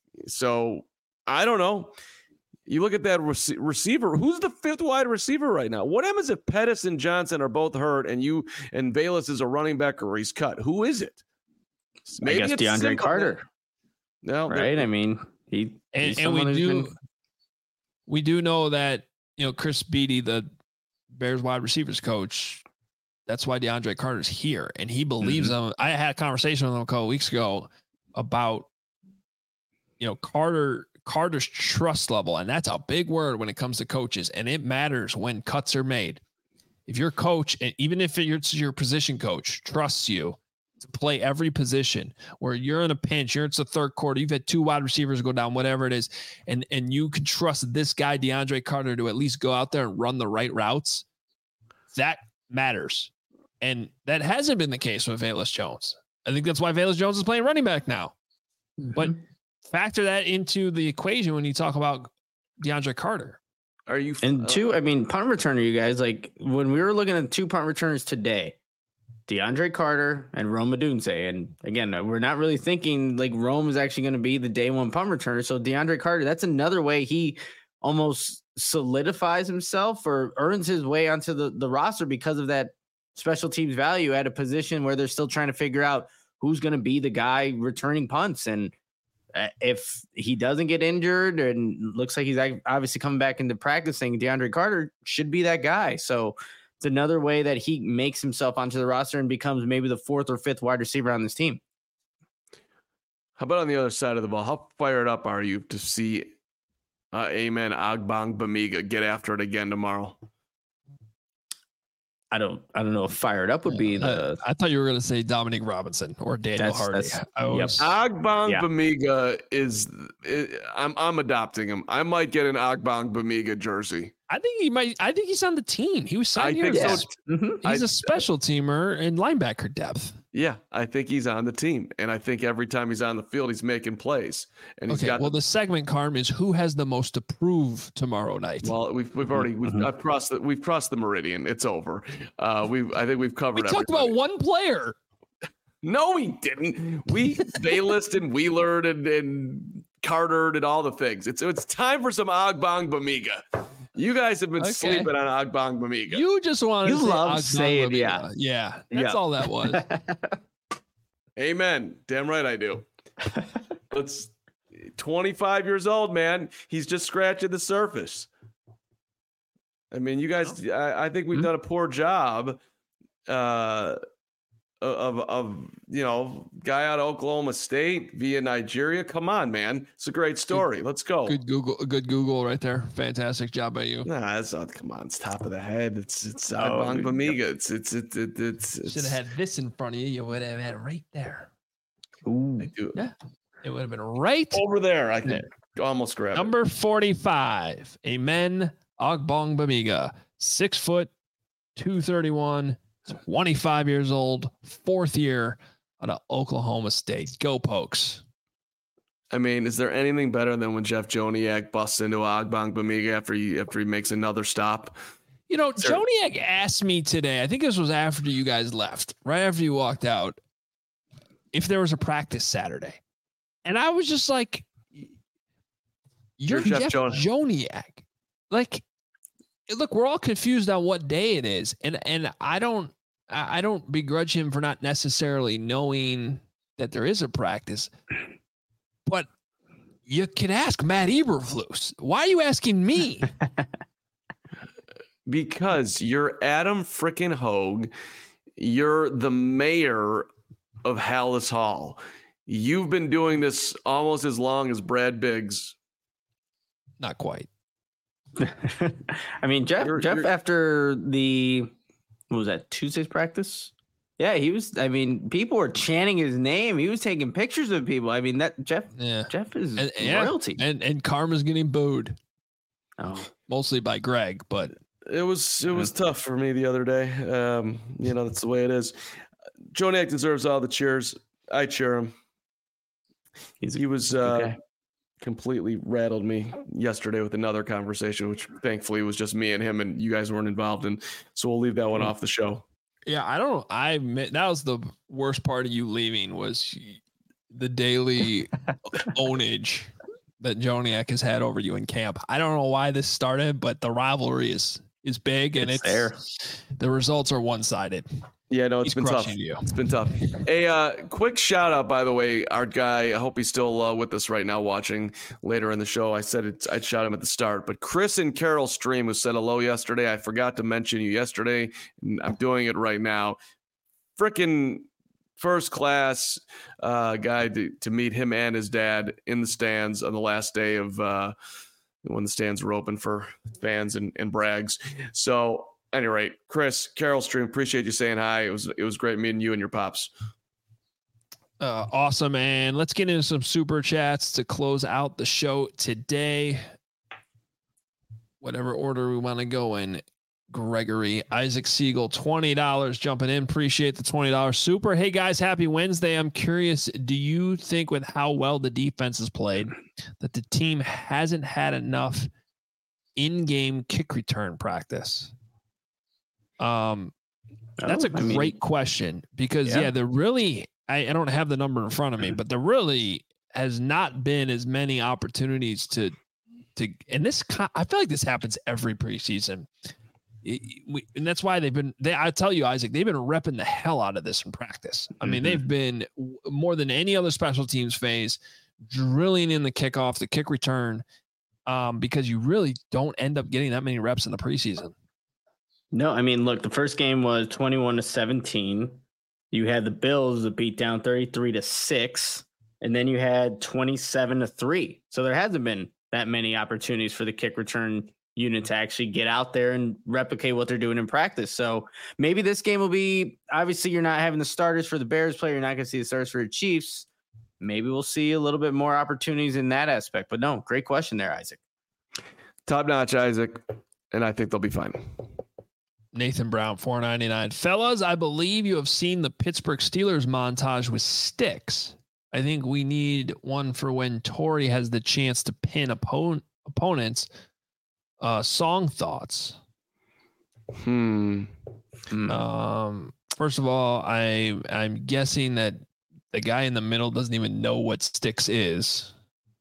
So I don't know. You look at that rec- receiver. Who's the fifth wide receiver right now? What happens if Pettis and Johnson are both hurt and you and Velus is a running back or he's cut? Who is it? Maybe I guess DeAndre simple. Carter. No, right. I mean, he and, and we do been... we do know that, you know, Chris Beatty, the Bears wide receivers coach, that's why DeAndre Carter's here, and he believes mm-hmm. him. I had a conversation with him a couple weeks ago about, you know, Carter. Carter's trust level, and that's a big word when it comes to coaches, and it matters when cuts are made. If your coach, and even if it's your position coach, trusts you to play every position, where you're in a pinch, you're it's the third quarter, you've had two wide receivers go down, whatever it is, and and you can trust this guy, DeAndre Carter, to at least go out there and run the right routes, that matters. And that hasn't been the case with Velus Jones. I think that's why Velus Jones is playing running back now. Mm-hmm. But factor that into the equation when you talk about DeAndre Carter. Are you and two? I mean, punt returner, you guys, like when we were looking at two punt returners today, DeAndre Carter and Rome Odunze. And again, we're not really thinking like Rome is actually going to be the day one punt returner. So DeAndre Carter, that's another way he almost solidifies himself or earns his way onto the, the roster because of that special teams value at a position where they're still trying to figure out who's going to be the guy returning punts. And if he doesn't get injured and looks like he's obviously coming back into practicing, DeAndre Carter should be that guy. So it's another way that he makes himself onto the roster and becomes maybe the fourth or fifth wide receiver on this team. How about on the other side of the ball? How fired up are you to see uh, Amen Agbong Bamiga get after it again tomorrow? I don't, I don't know if fired up would be the. I, I thought you were going to say Dominic Robinson or Daniel that's, Hardy. That's, I was, yep. Agbong yeah. Bamiga is. is I'm I'm adopting him. I might get an Agbong Bamiga jersey. I think he might. I think he's on the team. He was signed I here. think Yeah. so. Mm-hmm. He's I, a special teamer and linebacker depth. Yeah, I think he's on the team, and I think every time he's on the field, he's making plays. And he's okay, got well, the, the segment, Carm, is who has the most to prove tomorrow night. Well, we've we've already we've mm-hmm. I've crossed the we've crossed the meridian. It's over. Uh, we I think we've covered. We talked everybody. about one player. No, we didn't. We Baylist and Wheeler and and Carter and all the things. It's it's time for some Agbong Bamiga. You guys have been okay. sleeping on Agbong Bamiga. You just want to you say love Agbong saying Bamiga. yeah, yeah. That's yeah. all that was. Amen. Damn right I do. Let's twenty-five years old, man. He's just scratching the surface. I mean, you guys, I, I think we've mm-hmm. done a poor job uh, of, of, you know, guy out of Oklahoma State via Nigeria. Come on, man. It's a great story. Good, Let's go. Good Google, good Google right there. Fantastic job by you. Nah, that's not, come on. It's top of the head. It's, it's Agbong oh, Bamiga. It's, it's, it's, it's, it's, it's should have had this in front of you. You would have had it right there. Ooh. Yeah. It would have been right over there. I think almost grab Number it. forty-five. Amen. Agbong Bamiga. Six foot, two thirty-one, twenty-five years old, fourth year out of Oklahoma State. Go Pokes. I mean, is there anything better than when Jeff Joniak busts into Agbong Bamiga after he after he makes another stop? You know, there... Joniak asked me today, I think this was after you guys left, right after you walked out, if there was a practice Saturday. And I was just like, you're, you're Jeff, Jeff Joniak. Like, look, we're all confused on what day it is. And and I don't I don't begrudge him for not necessarily knowing that there is a practice. But you can ask Matt Eberflus. Why are you asking me? Because you're Adam frickin' Hogue. You're the mayor of Hallis Hall. You've been doing this almost as long as Brad Biggs. Not quite. I mean, Jeff, you're, Jeff, you're, after the, what was that, Tuesday's practice? Yeah, he was, I mean, people were chanting his name. He was taking pictures of people. I mean, that Jeff, yeah. Jeff is and, royalty. Yeah. And, and Karma's getting booed. Oh, mostly by Greg, but it was, it was yeah. tough for me the other day. Um, you know, that's the way it is. Joniak deserves all the cheers. I cheer him. He's, he was, uh, okay. completely rattled me yesterday with another conversation, which thankfully was just me and him, and you guys weren't involved in. So we'll leave that one off the show. Yeah, I don't. I admit, that was the worst part of you leaving was the daily ownage that Joniak has had over you in camp. I don't know why this started, but the rivalry is is big, and it's, it's there. The results are one sided. Yeah, no, it's he's been tough. You. It's been tough. A uh, quick shout out, by the way, our guy. I hope he's still uh, with us right now, watching later in the show. I said it, I'd shout him at the start, but Chris and Carol Stream, who said hello yesterday. I forgot to mention you yesterday, and I'm doing it right now. Frickin' first class uh, guy to, to meet him and his dad in the stands on the last day of uh, when the stands were open for fans and, and brags. So. At any rate, Chris, Carol Stream, appreciate you saying hi. It was it was great meeting you and your pops. Uh, awesome, and let's get into some super chats to close out the show today. Whatever order we want to go in. Gregory, Isaac Siegel, twenty dollars jumping in. Appreciate the twenty dollars super. Hey guys, happy Wednesday. I'm curious, do you think with how well the defense has played that the team hasn't had enough in-game kick return practice? Um, that's oh, a great I mean, question because yeah, yeah there really, I, I don't have the number in front of me, but there really has not been as many opportunities to, to, and this, I feel like this happens every preseason. It, we, and that's why they've been, they, I tell you, Isaac, they've been repping the hell out of this in practice. I mean, mm-hmm. they've been more than any other special teams phase drilling in the kickoff, the kick return, um, because you really don't end up getting that many reps in the preseason. No, I mean, look, the first game was twenty-one to seventeen. You had the Bills that beat down thirty-three to six, and then you had twenty-seven to three. So there hasn't been that many opportunities for the kick return unit to actually get out there and replicate what they're doing in practice. So maybe this game will be, obviously you're not having the starters for the Bears player. You're not going to see the starters for the Chiefs. Maybe we'll see a little bit more opportunities in that aspect, but no, great question there, Isaac. Top notch, Isaac. And I think they'll be fine. Nathan Brown, four ninety-nine. Fellas, I believe you have seen the Pittsburgh Steelers montage with sticks. I think we need one for when Torrey has the chance to pin opponent opponents. Uh, song thoughts. Hmm. Um. First of all, I I'm guessing that the guy in the middle doesn't even know what sticks is.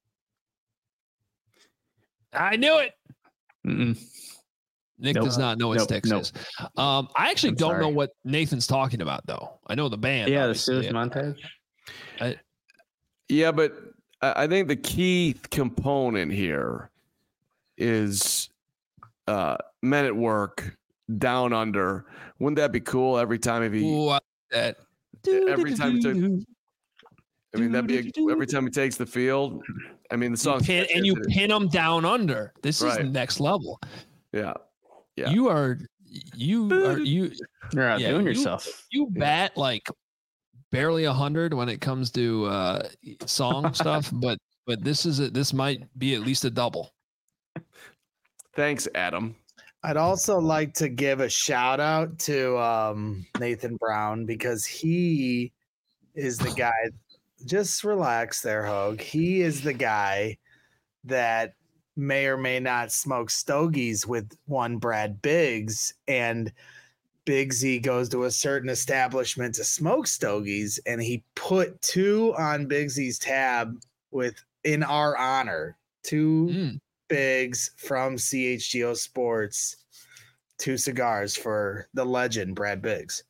I knew it. Mm-mm. Nick nope. does not know what nope. Sticks nope. is. Um, I actually I'm don't sorry. know what Nathan's talking about, though. I know the band. Yeah, the Steelers montage. I, yeah, but I think the key component here is uh, Men at Work, Down Under. Wouldn't that be cool every time if he ooh, I like that every time he took, I mean that'd be a, every time he takes the field. I mean the song pin, and you pin him down under. This right. is next level. Yeah. Yeah. You are you are you You're out yeah, doing you, yourself. You bat like barely a hundred when it comes to uh, song stuff, but but this is a, this might be at least a double. Thanks, Adam. I'd also like to give a shout out to um, Nathan Brown because he is the guy. Just relax there, Hogue. He is the guy that may or may not smoke stogies with one Brad Biggs, and Biggsy goes to a certain establishment to smoke stogies, and he put two on Biggsy's tab with in our honor. Two mm. Biggs from C H G O Sports. Two cigars for the legend, Brad Biggs.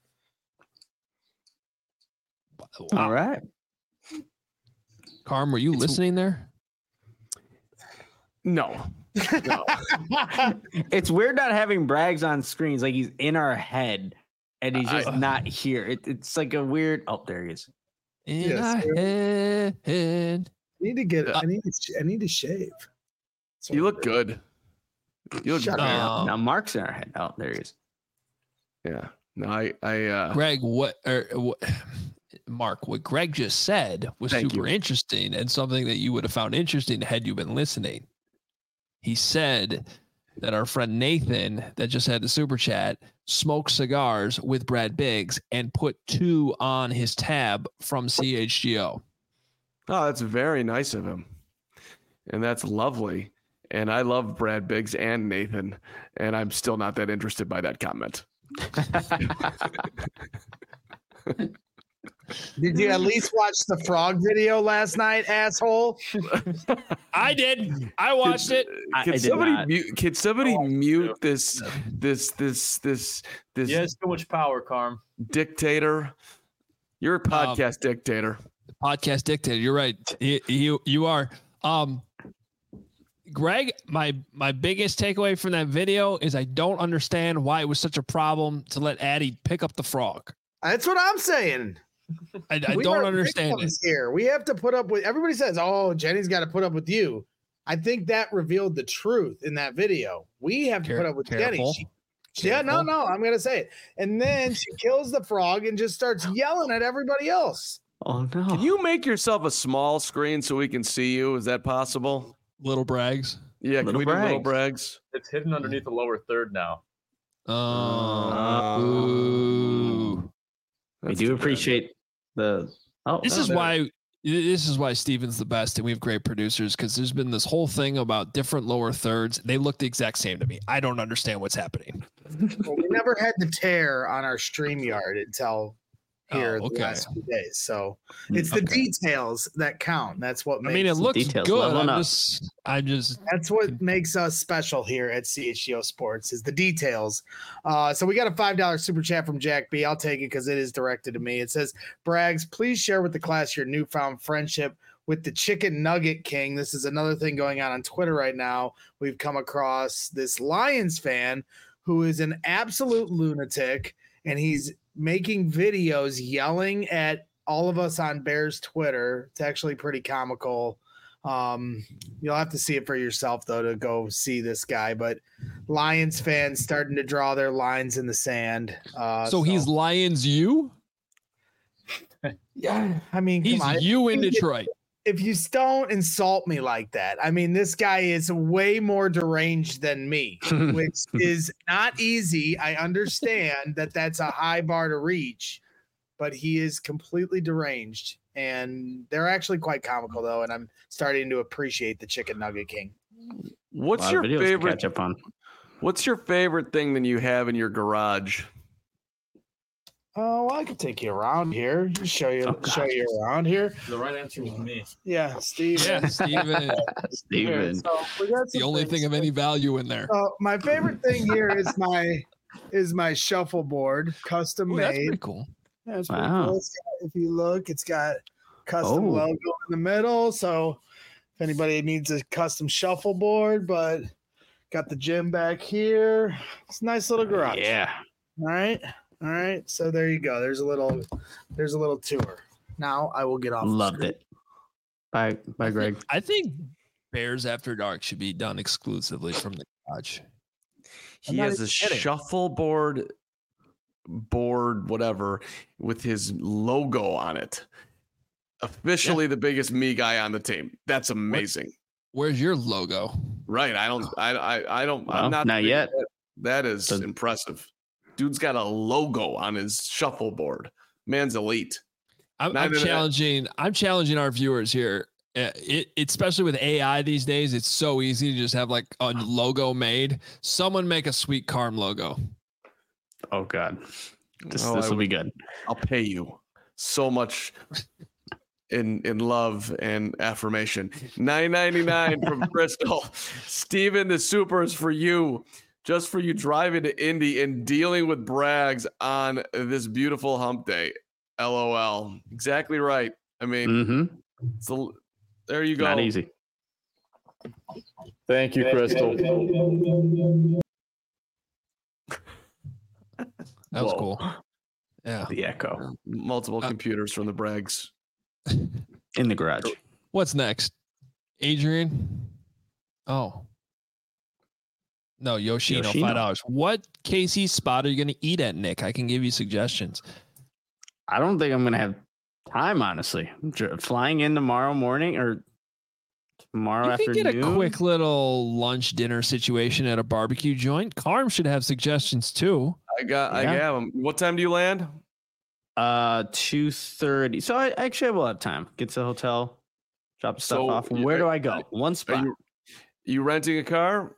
Wow. All right. Carm, were you it's, listening there? No. no. It's weird not having Braggs on screens. Like he's in our head and he's just I, not here. It, it's like a weird. Oh, there he is. In yes, our head. I need to get. Uh, I need. To, I need to shave. So you look good. You look Shut good. Up. Now Mark's in our head. Oh, there he is. Yeah. No, I. I. Uh, Greg, what? Or what? Mark, what Greg just said was super you. interesting and something that you would have found interesting had you been listening. He said that our friend Nathan, that just had the super chat, smoked cigars with Brad Biggs and put two on his tab from C H G O. Oh, that's very nice of him. And that's lovely. And I love Brad Biggs and Nathan, and I'm still not that interested by that comment. Did you at least watch the frog video last night, asshole? I did. I watched can, it. Can I somebody mute? Can somebody oh, mute this? This? This? This? This? Yeah, it's too much power, Carm. Dictator. You're a podcast um, dictator. Podcast dictator. You're right. You, you you are. Um, Greg, my my biggest takeaway from that video is I don't understand why it was such a problem to let Addie pick up the frog. That's what I'm saying. I, I don't understand it. Here, we have to put up with. Everybody says, "Oh, Jenny's got to put up with you." I think that revealed the truth in that video. We have to Care, put up with careful, Jenny. She, yeah, no, no, I'm gonna say it. And then she kills the frog and just starts yelling at everybody else. Oh no! Can you make yourself a small screen so we can see you? Is that possible? Little Braggs. Yeah, little can we Braggs. do little Braggs? It's hidden underneath the lower third now. Uh, ooh. We do appreciate the. Oh, this no, is no. why. This is why Steven's the best, and we have great producers because there's been this whole thing about different lower thirds. They look the exact same to me. I don't understand what's happening. Well, we never had the tear on our StreamYard until here oh, okay. the last few days. So it's the okay. details that count. That's what makes I mean, it looks details good. I'm just, I just that's what makes us special here at C H G O Sports is the details. Uh, so we got a five dollar super chat from Jack B. I'll take it because it is directed to me. It says, Braggs, please share with the class your newfound friendship with the Chicken Nugget King. This is another thing going on on Twitter right now. We've come across this Lions fan who is an absolute lunatic, and he's making videos yelling at all of us on Bears Twitter. It's actually pretty comical. Um, you'll have to see it for yourself, though, to go see this guy. But Lions fans starting to draw their lines in the sand. Uh, so, so he's Lions you? Yeah, I mean, he's come on. you in Detroit. If you don't insult me like that, I mean, this guy is way more deranged than me, which is not easy. I understand that that's a high bar to reach, but he is completely deranged, and they're actually quite comical though. And I'm starting to appreciate the Chicken Nugget King. What's your favorite? Catch up on. What's your favorite thing that you have in your garage? Oh, well, I could take you around here. Just show you, oh, show you around here. The right answer was me. Yeah, Steve. Yeah, Steven. Steven. So we got the only thing of any value in there. Uh, my favorite thing here is my is my shuffleboard, custom Ooh, made. That's pretty cool. Yeah, it's wow. pretty cool. It's got, if you look, it's got custom Oh. logo in the middle. So if anybody needs a custom shuffleboard, but got the gym back here. It's a nice little garage. Yeah. All right. All right. So there you go. There's a little there's a little tour. Now I will get off. Loved it. Bye, bye, Greg. I think Bears After Dark should be done exclusively from the garage. He has a shuffleboard board, whatever, with his logo on it. Officially yeah. the biggest me guy on the team. That's amazing. What? Where's your logo? Right. I don't I I, I don't well, I'm not not yet. That, that is Doesn't... impressive. Dude's got a logo on his shuffleboard. Man's elite. I'm, I'm challenging. I'm challenging our viewers here. It, it, especially with A I these days, it's so easy to just have like a logo made. Someone make a sweet Carm logo. Oh God, this oh, this will be good. I'll pay you so much in in love and affirmation. nine ninety-nine from Crystal. Steven, the super is for you. Just for you driving to Indy and dealing with Braggs on this beautiful hump day. L O L. Exactly right. I mean, mm-hmm. so there you go. Not easy. Thank you, Crystal. That was Whoa. cool. Yeah. The echo. Multiple uh, computers from the Braggs. In the garage. What's next? Adrian? Oh. No, Yoshino, Yoshino. five dollars. What K C spot are you going to eat at, Nick? I can give you suggestions. I don't think I'm going to have time, honestly. I'm flying in tomorrow morning or tomorrow you afternoon. You can get a quick little lunch dinner situation at a barbecue joint. Carm should have suggestions too. I got, yeah. I have them. What time do you land? Uh, two thirty. So I actually will have time. Get to the hotel, drop the stuff so, off. Where do I go? One spot. Are you, you renting a car?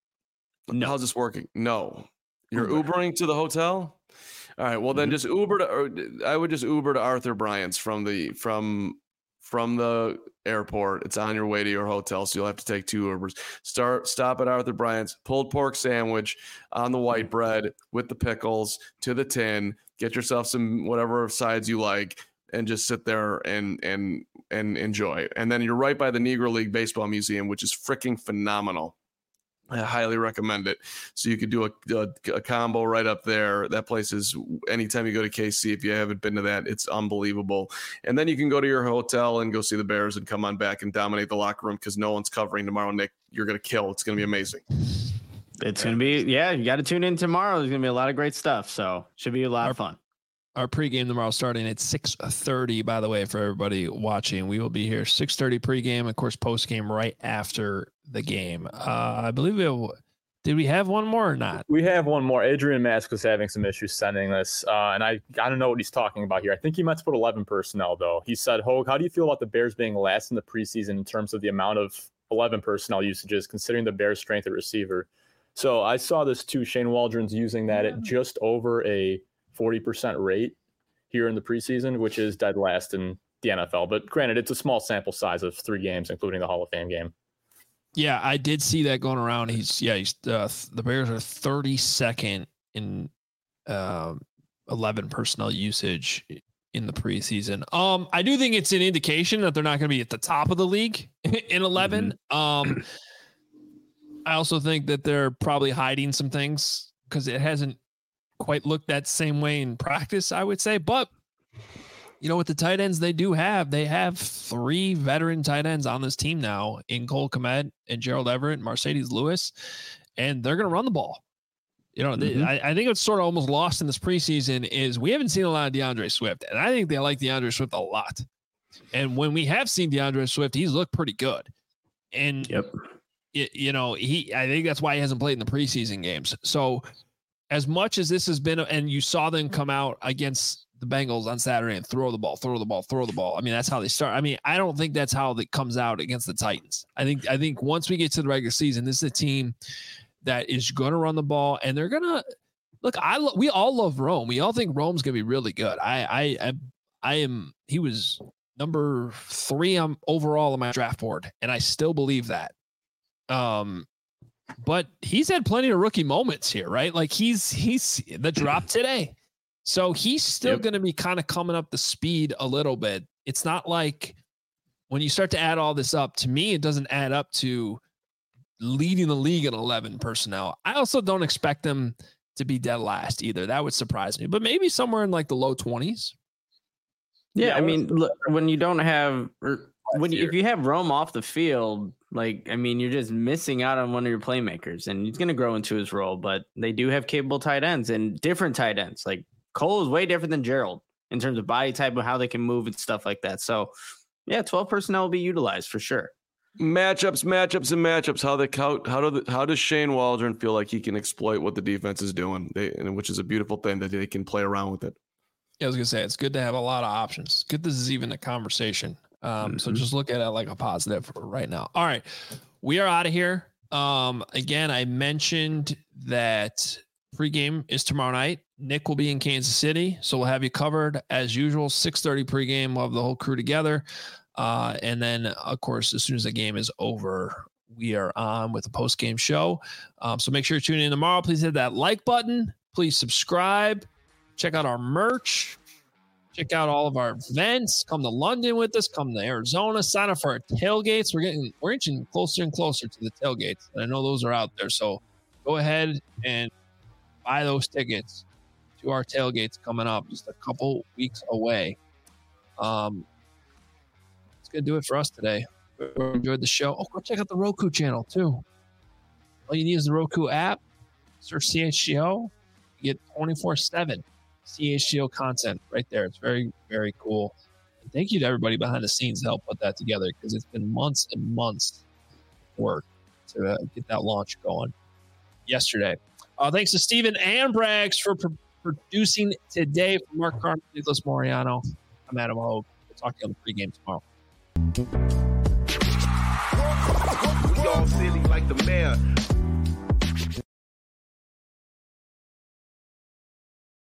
No. How's this working? No. You're Uber. Ubering to the hotel? All right. Well, then mm-hmm. just Uber to. Or I would just Uber to Arthur Bryant's from the from from the airport. It's on your way to your hotel, so you'll have to take two Ubers. Start stop at Arthur Bryant's, pulled pork sandwich on the white bread with the pickles to the tin. Get yourself some whatever sides you like, and just sit there and and and enjoy. And then you're right by the Negro League Baseball Museum, which is freaking phenomenal. I highly recommend it. So you could do a, a, a combo right up there. That place is, anytime you go to K C, if you haven't been to that, it's unbelievable. And then you can go to your hotel and go see the Bears and come on back and dominate the locker room because no one's covering tomorrow, Nick. You're going to kill. It's going to be amazing. It's going to be, yeah, you got to tune in tomorrow. There's going to be a lot of great stuff. So should be a lot our, of fun. Our pregame tomorrow starting at six thirty, by the way, for everybody watching. We will be here six thirty pregame, of course, postgame right after the game. Uh, I believe it. Did we have one more or not? We have one more. Adrian Mask was having some issues sending this, uh, and I, I don't know what he's talking about here. I think he meant to put eleven personnel, though. He said, Hogue, how do you feel about the Bears being last in the preseason in terms of the amount of eleven personnel usages, considering the Bears' strength at receiver? So I saw this too. Shane Waldron's using that at just over a forty percent rate here in the preseason, which is dead last in the N F L. But granted, it's a small sample size of three games, including the Hall of Fame game. Yeah, I did see that going around. He's yeah, he's uh, the Bears are thirty-second in uh, eleven personnel usage in the preseason. Um, I do think it's an indication that they're not going to be at the top of the league in eleven. Mm-hmm. Um, I also think that they're probably hiding some things because it hasn't quite looked that same way in practice, I would say. But you know, with the tight ends they do have, they have three veteran tight ends on this team now in Cole Kmet and Gerald Everett and Mercedes Lewis, and they're going to run the ball. You know, mm-hmm. they, I, I think it's sort of almost lost in this preseason is we haven't seen a lot of DeAndre Swift, and I think they like DeAndre Swift a lot. And when we have seen DeAndre Swift, he's looked pretty good. And yep. you, you know, he, I think that's why he hasn't played in the preseason games. So as much as this has been, and you saw them come out against the Bengals on Saturday and throw the ball, throw the ball, throw the ball. I mean, that's how they start. I mean, I don't think that's how it comes out against the Titans. I think, I think once we get to the regular season, this is a team that is going to run the ball, and they're going to look. I lo- we all love Rome. We all think Rome's going to be really good. I, I, I, I am. He was number three on overall on my draft board, and I still believe that. Um, but he's had plenty of rookie moments here, right? Like he's he's the drop today. So he's still yep. going to be kind of coming up the speed a little bit. it's not like when you start to add all this up, to me, it doesn't add up to leading the league in eleven personnel. I also don't expect them to be dead last either. That would surprise me, but maybe somewhere in like the low twenties. Yeah, yeah I mean, look, when you don't have, or when you, if you have Rome off the field, like, I mean, you're just missing out on one of your playmakers, and he's going to grow into his role. But they do have capable tight ends and different tight ends. Like Cole is way different than Gerald in terms of body type and how they can move and stuff like that. So, yeah, twelve personnel will be utilized for sure. Matchups, matchups, and matchups. How the how how do the, how does Shane Waldron feel like he can exploit what the defense is doing? They, and which is a beautiful thing that they can play around with it. Yeah, I was gonna say it's good to have a lot of options. Good, this is even a conversation. Um, mm-hmm. So just look at it like a positive right now. All right, we are out of here. Um, again, I mentioned that pregame is tomorrow night. Nick will be in Kansas City, so we'll have you covered as usual. six thirty pregame. We'll have the whole crew together. Uh, and then, of course, as soon as the game is over, we are on with the post-game show. Um, so make sure you tune in tomorrow. Please hit that like button. Please subscribe. Check out our merch. Check out all of our events. Come to London with us. Come to Arizona. Sign up for our tailgates. We're getting we're inching closer and closer to the tailgates. And I know those are out there. So go ahead and buy those tickets to our tailgates coming up just a couple weeks away. Um, Gonna do it for us today. We enjoyed the show. Oh, go check out the Roku channel too. All you need is the Roku app. Search C H G O. You get twenty-four seven C H G O content right there. It's very, very cool. And thank you to everybody behind the scenes to help put that together, because it's been months and months work to uh, get that launch going yesterday. Uh, thanks to Steven and Braggs for pro- producing today. For Mark Carmen, Nicholas Moriano, I'm Adam Hogue. We'll talk to you on the pregame tomorrow. We all silly like the mayor.